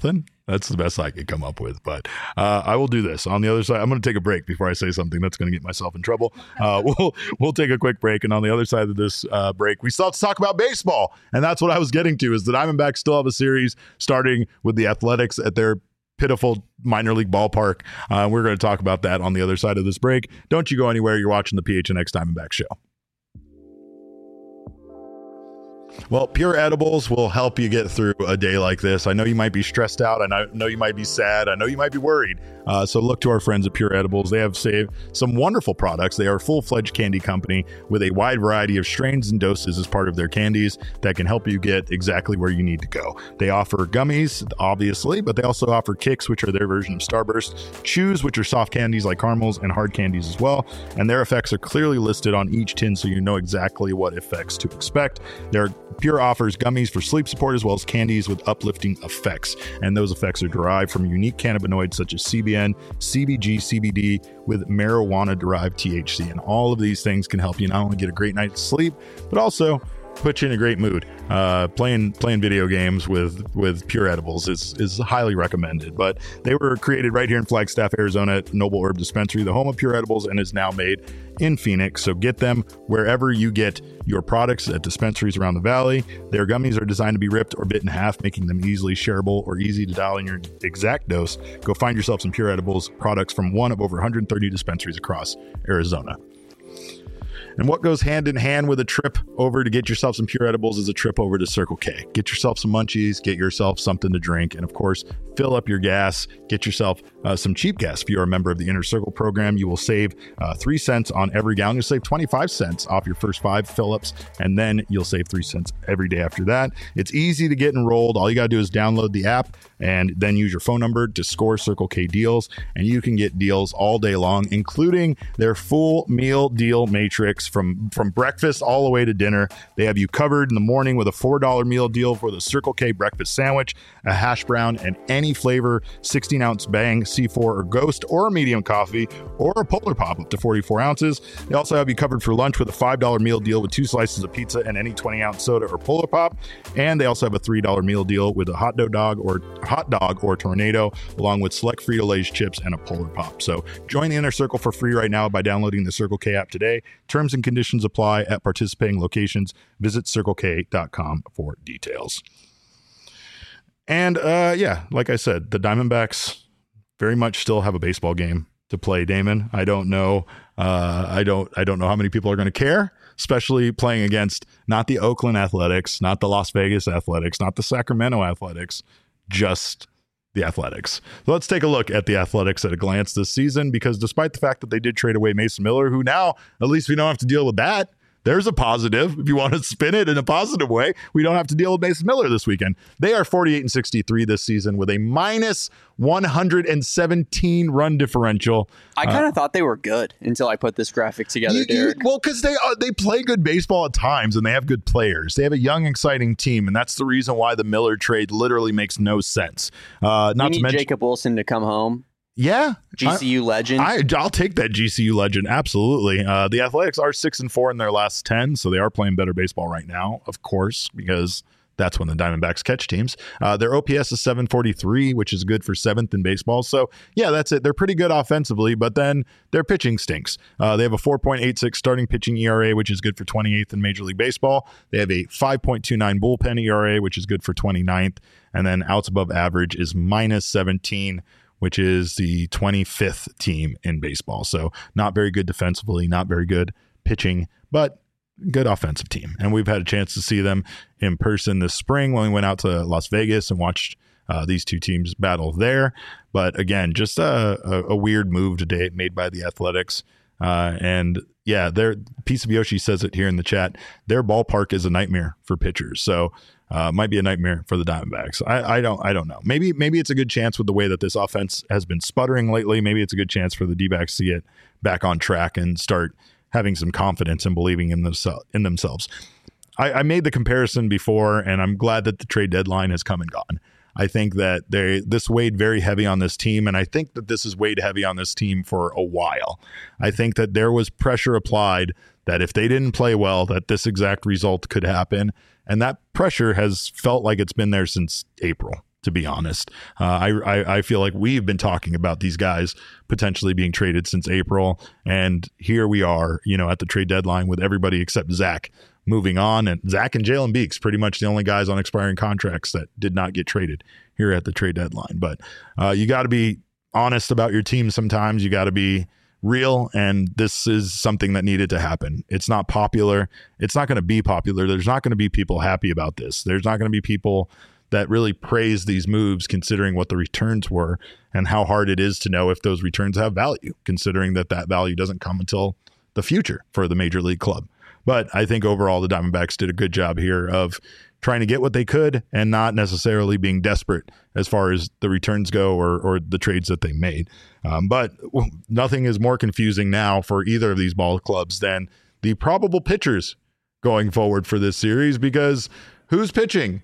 That's the best I could come up with. But uh, I will do this. On the other side, I'm going to take a break before I say something that's going to get myself in trouble. Uh, we'll we'll take a quick break. And on the other side of this uh, break, we still have to talk about baseball. And that's what I was getting to, is the Diamondbacks still have a series starting with the Athletics at their pitiful minor league ballpark. Uh, we're going to talk about that on the other side of this break. Don't you go anywhere. You're watching the P H N X Diamondback Show. Well, Pure Edibles will help you get through a day like this. I know you might be stressed out. I know you might be sad. I know you might be worried. Uh, so look to our friends at Pure Edibles. They have saved some wonderful products. They are a full-fledged candy company with a wide variety of strains and doses as part of their candies that can help you get exactly where you need to go. They offer gummies, obviously, but they also offer kicks, which are their version of Starburst, chews, which are soft candies like caramels, and hard candies as well. And their effects are clearly listed on each tin, so you know exactly what effects to expect. They're Pure offers gummies for sleep support as well as candies with uplifting effects. And those effects are derived from unique cannabinoids such as C B N, C B G, C B D with marijuana-derived T H C. And all of these things can help you not only get a great night's sleep, but also put you in a great mood. Uh, playing playing video games with with Pure Edibles is is highly recommended. But they were created right here in Flagstaff, Arizona at Noble Herb Dispensary, the home of Pure Edibles, and is now made in Phoenix. So get them wherever you get your products at dispensaries around the valley. Their gummies are designed to be ripped or bit in half, making them easily shareable or easy to dial in your exact dose. Go find yourself some Pure Edibles products from one of over one hundred thirty dispensaries across Arizona. And what goes hand in hand with a trip over to get yourself some Pure Edibles is a trip over to Circle K. Get yourself some munchies, get yourself something to drink, and of course, fill up your gas. Get yourself uh, some cheap gas. If you're a member of the Inner Circle program, you will save uh, three cents on every gallon. You'll save twenty-five cents off your first five fill-ups, and then you'll save three cents every day after that. It's easy to get enrolled. All you got to do is download the app and then use your phone number to score Circle K deals, and you can get deals all day long, including their full meal deal matrix from, from breakfast all the way to dinner. They have you covered in the morning with a four dollar meal deal for the Circle K breakfast sandwich, a hash brown, and any flavor sixteen ounce Bang, C four, or Ghost, or a medium coffee, or a Polar Pop up to forty-four ounces. They also have you covered for lunch with a five dollar meal deal with two slices of pizza and any twenty ounce soda or Polar Pop. And they also have a three dollar meal deal with a hot dog or hot dog or Tornado, along with select Frito-Lay's chips and a Polar Pop. So join the Inner Circle for free right now by downloading the Circle K app today. Terms and conditions apply at participating locations. Visit circle k dot com for details. And uh, yeah, like I said, the Diamondbacks very much still have a baseball game to play, Damon. I don't know. Uh, I don't. I don't know how many people are going to care, especially playing against not the Oakland Athletics, not the Las Vegas Athletics, not the Sacramento Athletics, just the Athletics. So let's take a look at the Athletics at a glance this season, because despite the fact that they did trade away Mason Miller, who now at least we don't have to deal with that. There's a positive. If you want to spin it in a positive way, we don't have to deal with Mason Miller this weekend. They are forty-eight and sixty-three this season with a minus one hundred seventeen run differential. I kind of uh, thought they were good until I put this graphic together, you, Derek. You, well, because they uh, they play good baseball at times, and they have good players. They have a young, exciting team, and that's the reason why the Miller trade literally makes no sense. Uh, not we need to mention Jacob Wilson to come home. Yeah. G C U I, legend. I, I'll take that G C U legend. Absolutely. Uh, the Athletics are six and four in their last ten, so they are playing better baseball right now, of course, because that's when the Diamondbacks catch teams. Uh, their O P S is seven forty-three, which is good for seventh in baseball. So, yeah, that's it. They're pretty good offensively, but then their pitching stinks. Uh, they have a four point eight six starting pitching E R A, which is good for twenty-eighth in Major League Baseball. They have a five point two nine bullpen E R A, which is good for twenty-ninth. And then outs above average is minus seventeen, which is the twenty-fifth team in baseball. So not very good defensively, not very good pitching, but good offensive team. And we've had a chance to see them in person this spring when we went out to Las Vegas and watched uh, these two teams battle there. But again, just a, a, a weird move today made by the Athletics. Uh, and yeah, their Piece of Yoshi says it here in the chat. Their ballpark is a nightmare for pitchers. So Uh, might be a nightmare for the Diamondbacks. I, I don't I don't know. Maybe maybe it's a good chance with the way that this offense has been sputtering lately. Maybe it's a good chance for the D-backs to get back on track and start having some confidence and believing in, themse- in themselves. I, I made the comparison before, and I'm glad that the trade deadline has come and gone. I think that they this weighed very heavy on this team, and I think that this has weighed heavy on this team for a while. I think that there was pressure applied that if they didn't play well, that this exact result could happen. And that pressure has felt like it's been there since April. to be honest. Uh, I, I I feel like we've been talking about these guys potentially being traded since April, and here we are, you know, at the trade deadline with everybody except Zach moving on, and Zach and Jalen Beeks pretty much the only guys on expiring contracts that did not get traded here at the trade deadline. But uh, you got to be honest about your team sometimes. You got to be real, and this is something that needed to happen. It's not popular. It's not going to be popular. There's not going to be people happy about this. There's not going to be people that really praise these moves considering what the returns were and how hard it is to know if those returns have value, considering that that value doesn't come until the future for the major league club. But I think overall the Diamondbacks did a good job here of trying to get what they could and not necessarily being desperate as far as the returns go or or the trades that they made. Um, but nothing is more confusing now for either of these ball clubs than the probable pitchers going forward for this series, because who's pitching?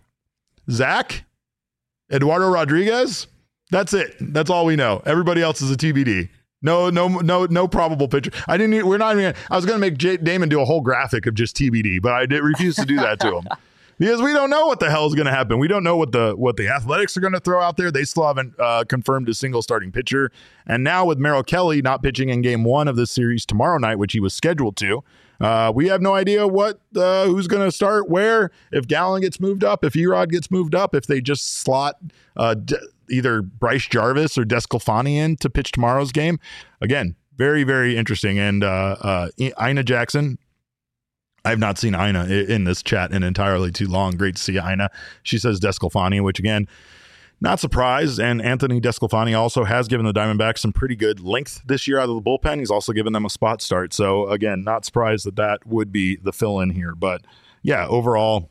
Zach? Eduardo Rodriguez? That's it. That's all we know. Everybody else is a T B D. No, no, no, no probable pitcher. I didn't. We're not even. I was going to make J- Damon do a whole graphic of just T B D, but I did refuse to do that to him because we don't know what the hell is going to happen. We don't know what the what the Athletics are going to throw out there. They still haven't uh, confirmed a single starting pitcher. And now with Merrill Kelly not pitching in Game One of this series tomorrow night, which he was scheduled to, uh, we have no idea what uh, who's going to start where. If Gallen gets moved up, if Erod gets moved up, if they just slot Uh, d- either Bryce Jarvis or Desclafani in to pitch tomorrow's game. Again, very, very interesting. And uh, uh, Ina Jackson, I've not seen Ina in this chat in entirely too long. Great to see Ina. She says Desclafani, which again, not surprised. And Anthony Desclafani also has given the Diamondbacks some pretty good length this year out of the bullpen. He's also given them a spot start. So again, not surprised that that would be the fill in here. But yeah, overall,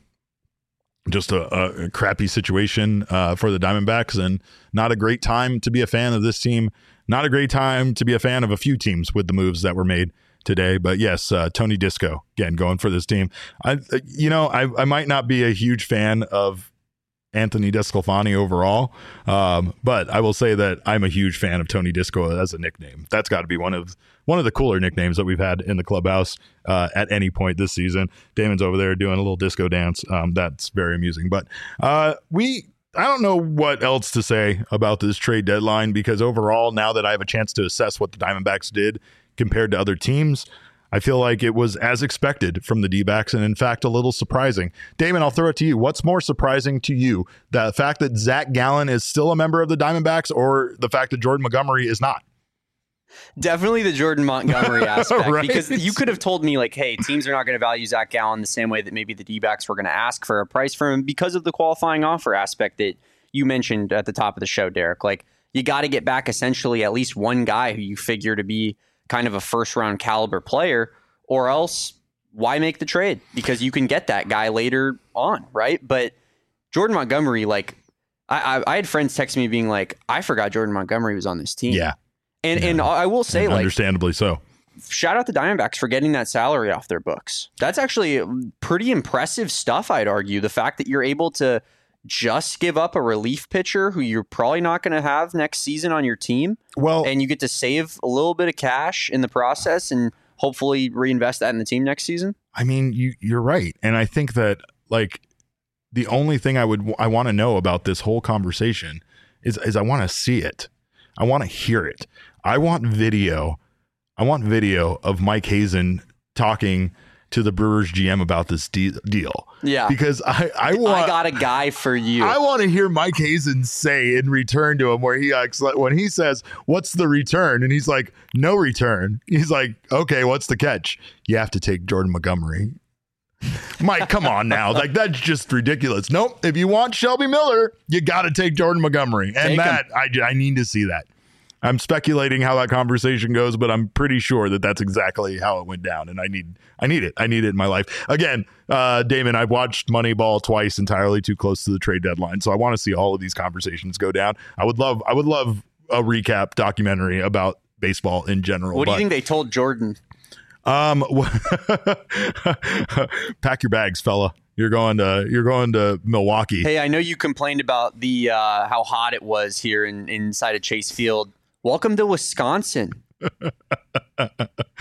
just a, a crappy situation uh, for the Diamondbacks, and not a great time to be a fan of this team. Not a great time to be a fan of a few teams with the moves that were made today. But yes, uh, Tony Disco, again, going for this team. I, you know, I, I might not be a huge fan of Anthony Desclafani overall, um, but I will say that I'm a huge fan of Tony Disco as a nickname. That's got to be one of one of the cooler nicknames that we've had in the clubhouse uh, at any point this season. Damon's over there doing a little disco dance. Um, that's very amusing. But uh, we, I don't know what else to say about this trade deadline, because overall, now that I have a chance to assess what the Diamondbacks did compared to other teams, I feel like it was as expected from the D-backs, and in fact, a little surprising. Damon, I'll throw it to you. What's more surprising to you? The fact that Zach Gallen is still a member of the Diamondbacks, or the fact that Jordan Montgomery is not? Definitely the Jordan Montgomery aspect, Right? Because you could have told me, like, hey, teams are not going to value Zach Gallen the same way that maybe the D-backs were going to ask for a price for him because of the qualifying offer aspect that you mentioned at the top of the show, Derek. Like, you got to get back essentially at least one guy who you figure to be kind of a first round caliber player, or else why make the trade? Because you can get that guy later on, right? But Jordan Montgomery, like, I, I, I had friends text me being like, I forgot Jordan Montgomery was on this team. Yeah. And yeah. and I will say, and like, understandably so. Shout out the Diamondbacks for getting that salary off their books. That's actually pretty impressive stuff, I'd argue. The fact that you're able to just give up a relief pitcher who you're probably not going to have next season on your team. Well, and you get to save a little bit of cash in the process and hopefully reinvest that in the team next season. I mean, you you're right. And I think that, like, the only thing I would I want to know about this whole conversation is is I want to see it. I want to hear it. I want video. I want video of Mike Hazen talking to the Brewers G M about this de- deal. Yeah. Because I, I want I got a guy for you. I want to hear Mike Hazen say in return to him where he acts like, when he says, what's the return? And he's like, no return. He's like, okay, what's the catch? You have to take Jordan Montgomery. Mike, come on now. Like, that's just ridiculous. Nope. If you want Shelby Miller, you got to take Jordan Montgomery. And Take that, I, I need to see that. I'm speculating how that conversation goes, but I'm pretty sure that that's exactly how it went down. And I need, I need it. I need it in my life. Again, uh, Damon, I've watched Moneyball twice, entirely too close to the trade deadline. So I want to see all of these conversations go down. I would love, I would love a recap documentary about baseball in general. What do but, you think they told Jordan? Um, pack your bags, fella. You're going to you're going to Milwaukee. Hey, I know you complained about the uh, how hot it was here in inside of Chase Field. Welcome to Wisconsin. Hope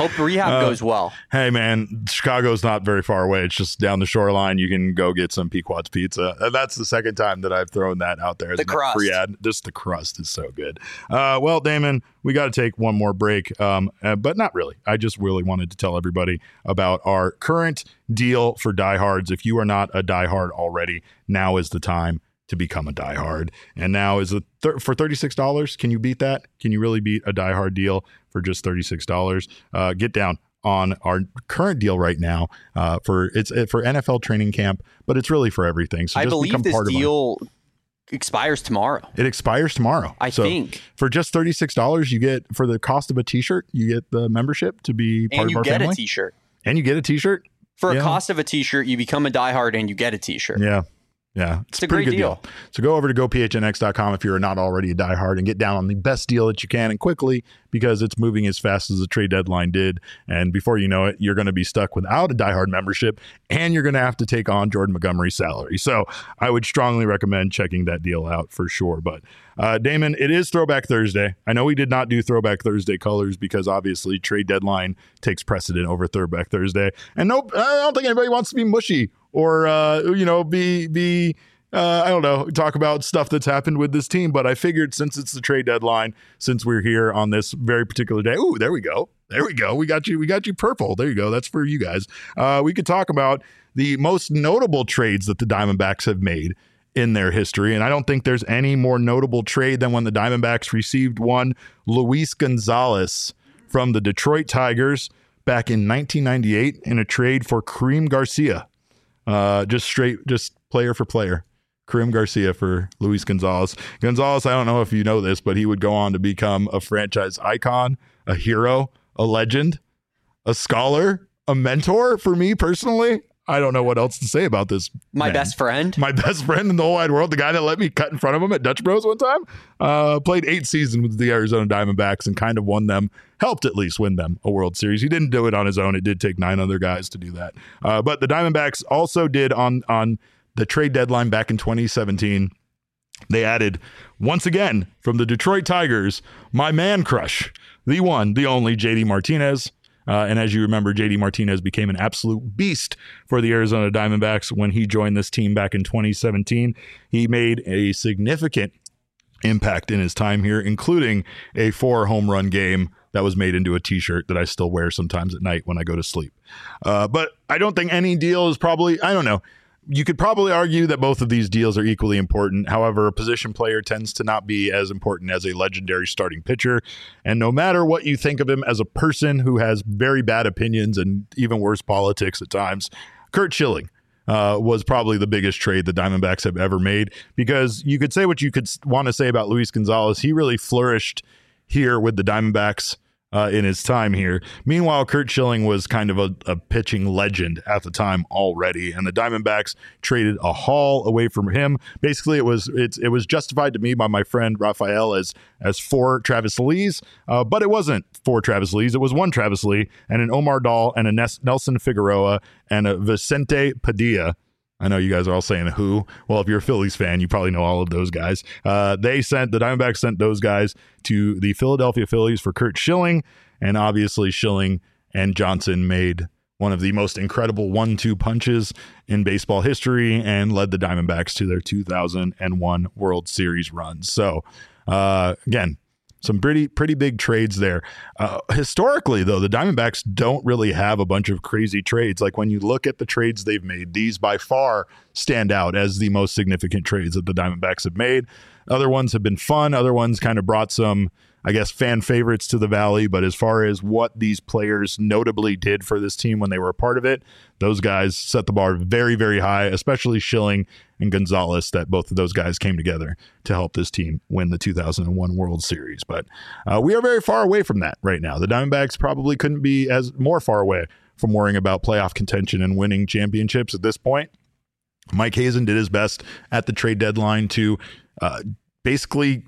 Hope rehab Uh, goes well. Hey, man, Chicago's not very far away. It's just down the shoreline. You can go get some Pequod's pizza. And that's the second time that I've thrown that out there. As The a crust. Free ad. Just the crust is so good. Uh, well, Damon, we got to take one more break, um, uh, but not really. I just really wanted to tell everybody about our current deal for diehards. If you are not a diehard already, now is the time to become a diehard. And now is a thir- for thirty-six dollars. Can you beat that? Can you really beat a diehard deal for just thirty-six dollars? Uh, get down on our current deal right now uh, for it's uh, for N F L training camp, but it's really for everything. So I just believe become this part of our- deal expires tomorrow. It expires tomorrow. I so think. for just thirty-six dollars, you get, for the cost of a t-shirt, you get the membership to be part And of you our get family. a t-shirt. And you get a t-shirt. For a Yeah. cost of a t-shirt, you become a diehard and you get a t-shirt. Yeah. Yeah, it's, It's a pretty great good deal. deal. So go over to go p h n x dot com if you're not already a diehard and get down on the best deal that you can and quickly, because it's moving as fast as the trade deadline did. And before you know it, you're going to be stuck without a diehard membership and you're going to have to take on Jordan Montgomery's salary. So I would strongly recommend checking that deal out for sure. But uh, Damon, it is Throwback Thursday. I know we did not do Throwback Thursday colors because obviously trade deadline takes precedent over Throwback Thursday. And nope, I don't think anybody wants to be mushy or, uh, you know, be, be, Uh, I don't know, talk about stuff that's happened with this team, but I figured since it's the trade deadline, since we're here on this very particular day, ooh, there we go. There we go. We got you. We got you purple. There you go. That's for you guys. Uh, we could talk about the most notable trades that the Diamondbacks have made in their history. And I don't think there's any more notable trade than when the Diamondbacks received one Luis Gonzalez from the Detroit Tigers back in nineteen ninety-eight in a trade for Kareem Garcia. Uh, just straight, just player for player. Kareem Garcia for Luis Gonzalez. Gonzalez, I don't know if you know this, but he would go on to become a franchise icon, a hero, a legend, a scholar, a mentor for me personally. I don't know what else to say about this. My man. best friend. My best friend in the whole wide world, the guy that let me cut in front of him at Dutch Bros one time, uh, played eight seasons with the Arizona Diamondbacks and kind of won them, helped at least win them a World Series. He didn't do it on his own. It did take nine other guys to do that. Uh, but the Diamondbacks also did on on the trade deadline back in twenty seventeen. They added, once again, from the Detroit Tigers, my man crush, the one, the only J D Martinez. Uh, and as you remember, J D Martinez became an absolute beast for the Arizona Diamondbacks when he joined this team back in twenty seventeen. He made a significant impact in his time here, including a four home run game that was made into a t-shirt that I still wear sometimes at night when I go to sleep. Uh, but I don't think any deal is probably, I don't know. You could probably argue that both of these deals are equally important. However, a position player tends to not be as important as a legendary starting pitcher. And no matter what you think of him as a person who has very bad opinions and even worse politics at times, Curt Schilling uh, was probably the biggest trade the Diamondbacks have ever made, because you could say what you could want to say about Luis Gonzalez. He really flourished here with the Diamondbacks Uh, in his time here. Meanwhile, Curt Schilling was kind of a, a pitching legend at the time already, and the Diamondbacks traded a haul away from him. Basically, it was it's, it was justified to me by my friend Raphael as as four Travis Lees, uh, but it wasn't four Travis Lees. It was one Travis Lee and an Omar Dahl and a Nes- Nelson Figueroa and a Vicente Padilla. I know you guys are all saying who. Well, if you're a Phillies fan, you probably know all of those guys. Uh, they sent, the Diamondbacks sent those guys to the Philadelphia Phillies for Curt Schilling. And obviously Schilling and Johnson made one of the most incredible one two punches in baseball history and led the Diamondbacks to their two thousand one World Series run. So uh, again, some pretty pretty big trades there. Uh, historically, though, the Diamondbacks don't really have a bunch of crazy trades. Like when you look at the trades they've made, these by far stand out as the most significant trades that the Diamondbacks have made. Other ones have been fun. Other ones kind of brought some, I guess, fan favorites to the Valley. But as far as what these players notably did for this team when they were a part of it, those guys set the bar very, very high, especially Schilling and Gonzalez, that both of those guys came together to help this team win the two thousand one World Series. But uh, we are very far away from that right now. The Diamondbacks probably couldn't be as more far away from worrying about playoff contention and winning championships at this point. Mike Hazen did his best at the trade deadline to uh, basically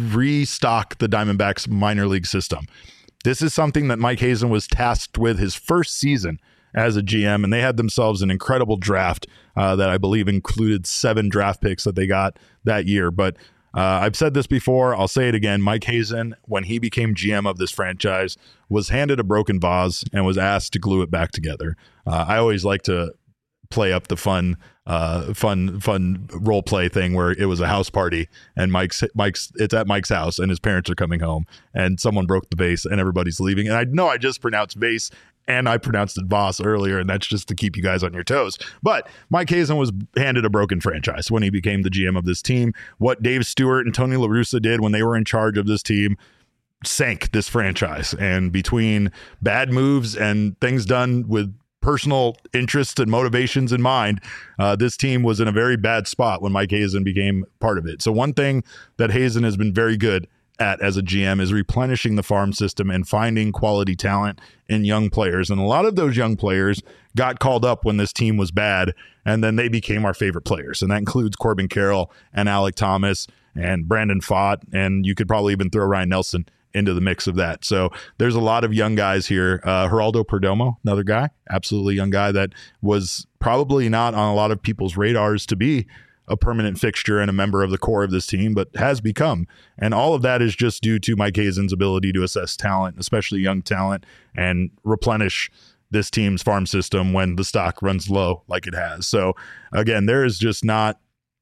restock the Diamondbacks minor league system. This is something that Mike Hazen was tasked with his first season as a G M, and they had themselves an incredible draft uh, that I believe included seven draft picks that they got that year. But Uh, I've said this before. I'll say it again. Mike Hazen, when he became G M of this franchise, was handed a broken vase and was asked to glue it back together. Uh, I always like to play up the fun, uh, fun, fun role play thing where it was a house party and Mike's, Mike's, it's at Mike's house and his parents are coming home and someone broke the vase and everybody's leaving. And I know I just pronounced vase and I pronounced it vase earlier, and that's just to keep you guys on your toes. But Mike Hazen was handed a broken franchise when he became the G M of this team. What Dave Stewart and Tony La Russa did when they were in charge of this team sank this franchise. And between bad moves and things done with personal interests and motivations in mind, uh, this team was in a very bad spot when Mike Hazen became part of it. So one thing that Hazen has been very good at as a G M is replenishing the farm system and finding quality talent in young players. And a lot of those young players got called up when this team was bad, and then they became our favorite players. And that includes Corbin Carroll and Alec Thomas and Brandon Pfaadt, and you could probably even throw Ryan Nelson into the mix of that. So there's a lot of young guys here. Uh, Geraldo Perdomo, another guy, absolutely young guy that was probably not on a lot of people's radars to be a permanent fixture and a member of the core of this team, but has become. And all of that is just due to Mike Hazen's ability to assess talent, especially young talent, and replenish this team's farm system when the stock runs low like it has. So again, there is just not,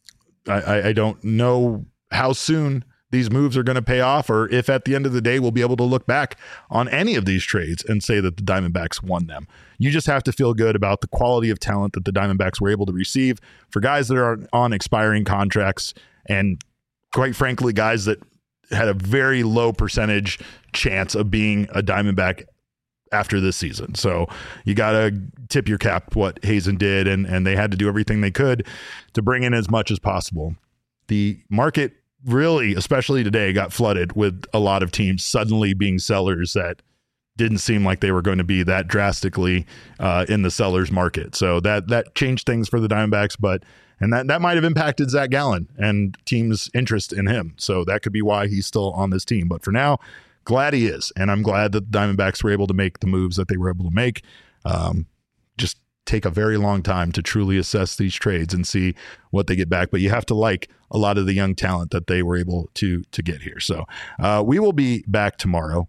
I, I don't know how soon these moves are going to pay off, or if at the end of the day we'll be able to look back on any of these trades and say that the Diamondbacks won them. You just have to feel good about the quality of talent that the Diamondbacks were able to receive for guys that are on expiring contracts, and quite frankly, guys that had a very low percentage chance of being a Diamondback after this season. So you got to tip your cap what Hazen did, and, and they had to do everything they could to bring in as much as possible. The market really, especially today, got flooded with a lot of teams suddenly being sellers that didn't seem like they were going to be that drastically uh, in the sellers market. So that that changed things for the Diamondbacks, but and that, that might have impacted Zach Gallen and teams' interest in him. So that could be why he's still on this team. But for now, glad he is, and I'm glad that the Diamondbacks were able to make the moves that they were able to make. Um, just take a very long time to truly assess these trades and see what they get back. But you have to like a lot of the young talent that they were able to to get here. So uh, we will be back tomorrow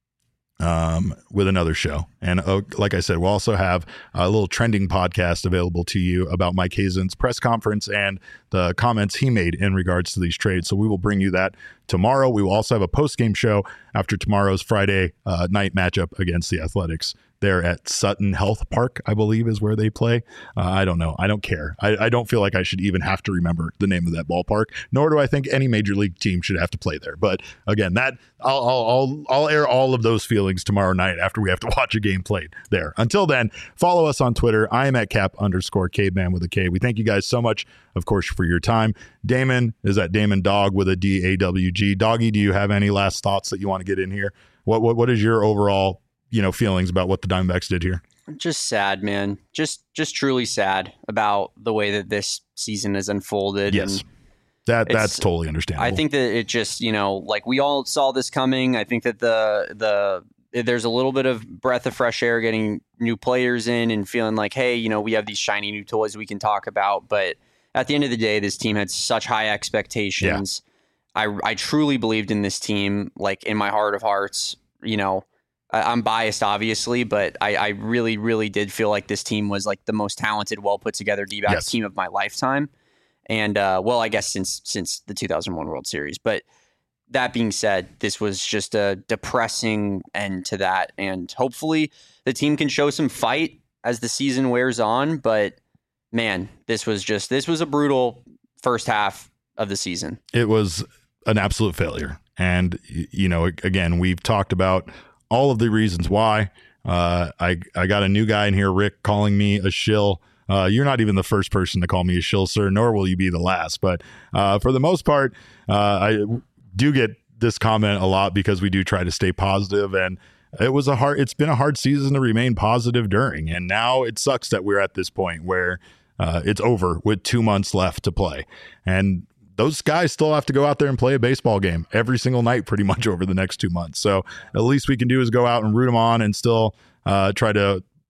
um, with another show. And uh, like I said, we'll also have a little trending podcast available to you about Mike Hazen's press conference and the comments he made in regards to these trades. So we will bring you that tomorrow. We will also have a post-game show after tomorrow's Friday uh, night matchup against the Athletics. They're at Sutton Health Park, I believe, is where they play. Uh, I don't know. I don't care. I, I don't feel like I should even have to remember the name of that ballpark, nor do I think any major league team should have to play there. But again, that I'll I'll I'll, I'll air all of those feelings tomorrow night after we have to watch a game played there. Until then, follow us on Twitter. I am at cap underscore caveman with a K. We thank you guys so much, of course, for your time. Damon is at Damon Dog with a D A W G. Doggy, do you have any last thoughts that you want to get in here? What what what is your overall, you know, feelings about what the Diamondbacks did here? Just sad, man. Just just truly sad about the way that this season has unfolded. Yes. And that that's totally understandable. I think that it just, you know, like we all saw this coming. I think that the the there's a little bit of breath of fresh air getting new players in and feeling like, hey, you know, we have these shiny new toys we can talk about. But at the end of the day, this team had such high expectations. Yeah. I I truly believed in this team, like in my heart of hearts, you know. I'm biased, obviously, but I, I really, really did feel like this team was like the most talented, well put together D-backs yes. team of my lifetime. And, uh, well, I guess since since the two thousand one World Series. But that being said, this was just a depressing end to that. And hopefully the team can show some fight as the season wears on. But, man, this was just this was a brutal first half of the season. It was an absolute failure. And, you know, again, we've talked about all of the reasons why. Uh, I I got a new guy in here, Rick, calling me a shill. Uh, you're not even the first person to call me a shill, sir, nor will you be the last. But uh, for the most part, uh, I do get this comment a lot because we do try to stay positive, and it was a hard. It's been a hard season to remain positive during, and now it sucks that we're at this point where uh, it's over with two months left to play, and those guys still have to go out there and play a baseball game every single night pretty much over the next two months. So at least we can do is go out and root them on and still uh, try to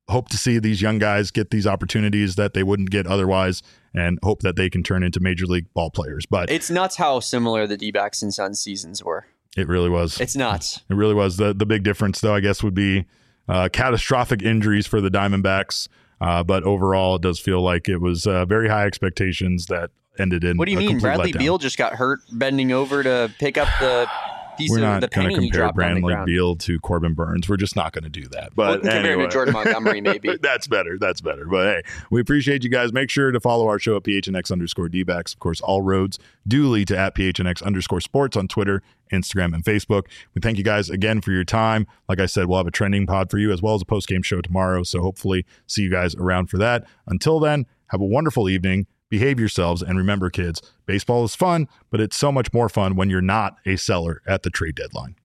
hope to see these young guys get these opportunities that they wouldn't get otherwise, and hope that they can turn into major league ball players. But it's nuts how similar the D-backs and Suns seasons were. It really was. It's nuts. It really was. The the big difference, though, I guess, would be uh, catastrophic injuries for the Diamondbacks. Uh, but overall, it does feel like it was uh, very high expectations that ended in. What do you mean? Bradley letdown. Beal just got hurt bending over to pick up the piece We're of not the going penny to he compare dropped on the Bradley ground. Beal to Corbin Burns. We're just not going to do that. But we can compare anyway. him to Jordan Montgomery, maybe. That's better. That's better. But hey, we appreciate you guys. Make sure to follow our show at P H N X underscore D-backs. Of course, all roads do lead to at P H N X underscore sports on Twitter, Instagram, and Facebook. We thank you guys again for your time. Like I said, we'll have a trending pod for you as well as a post-game show tomorrow. So hopefully see you guys around for that. Until then, have a wonderful evening. Behave yourselves. And remember, kids, baseball is fun, but it's so much more fun when you're not a seller at the trade deadline.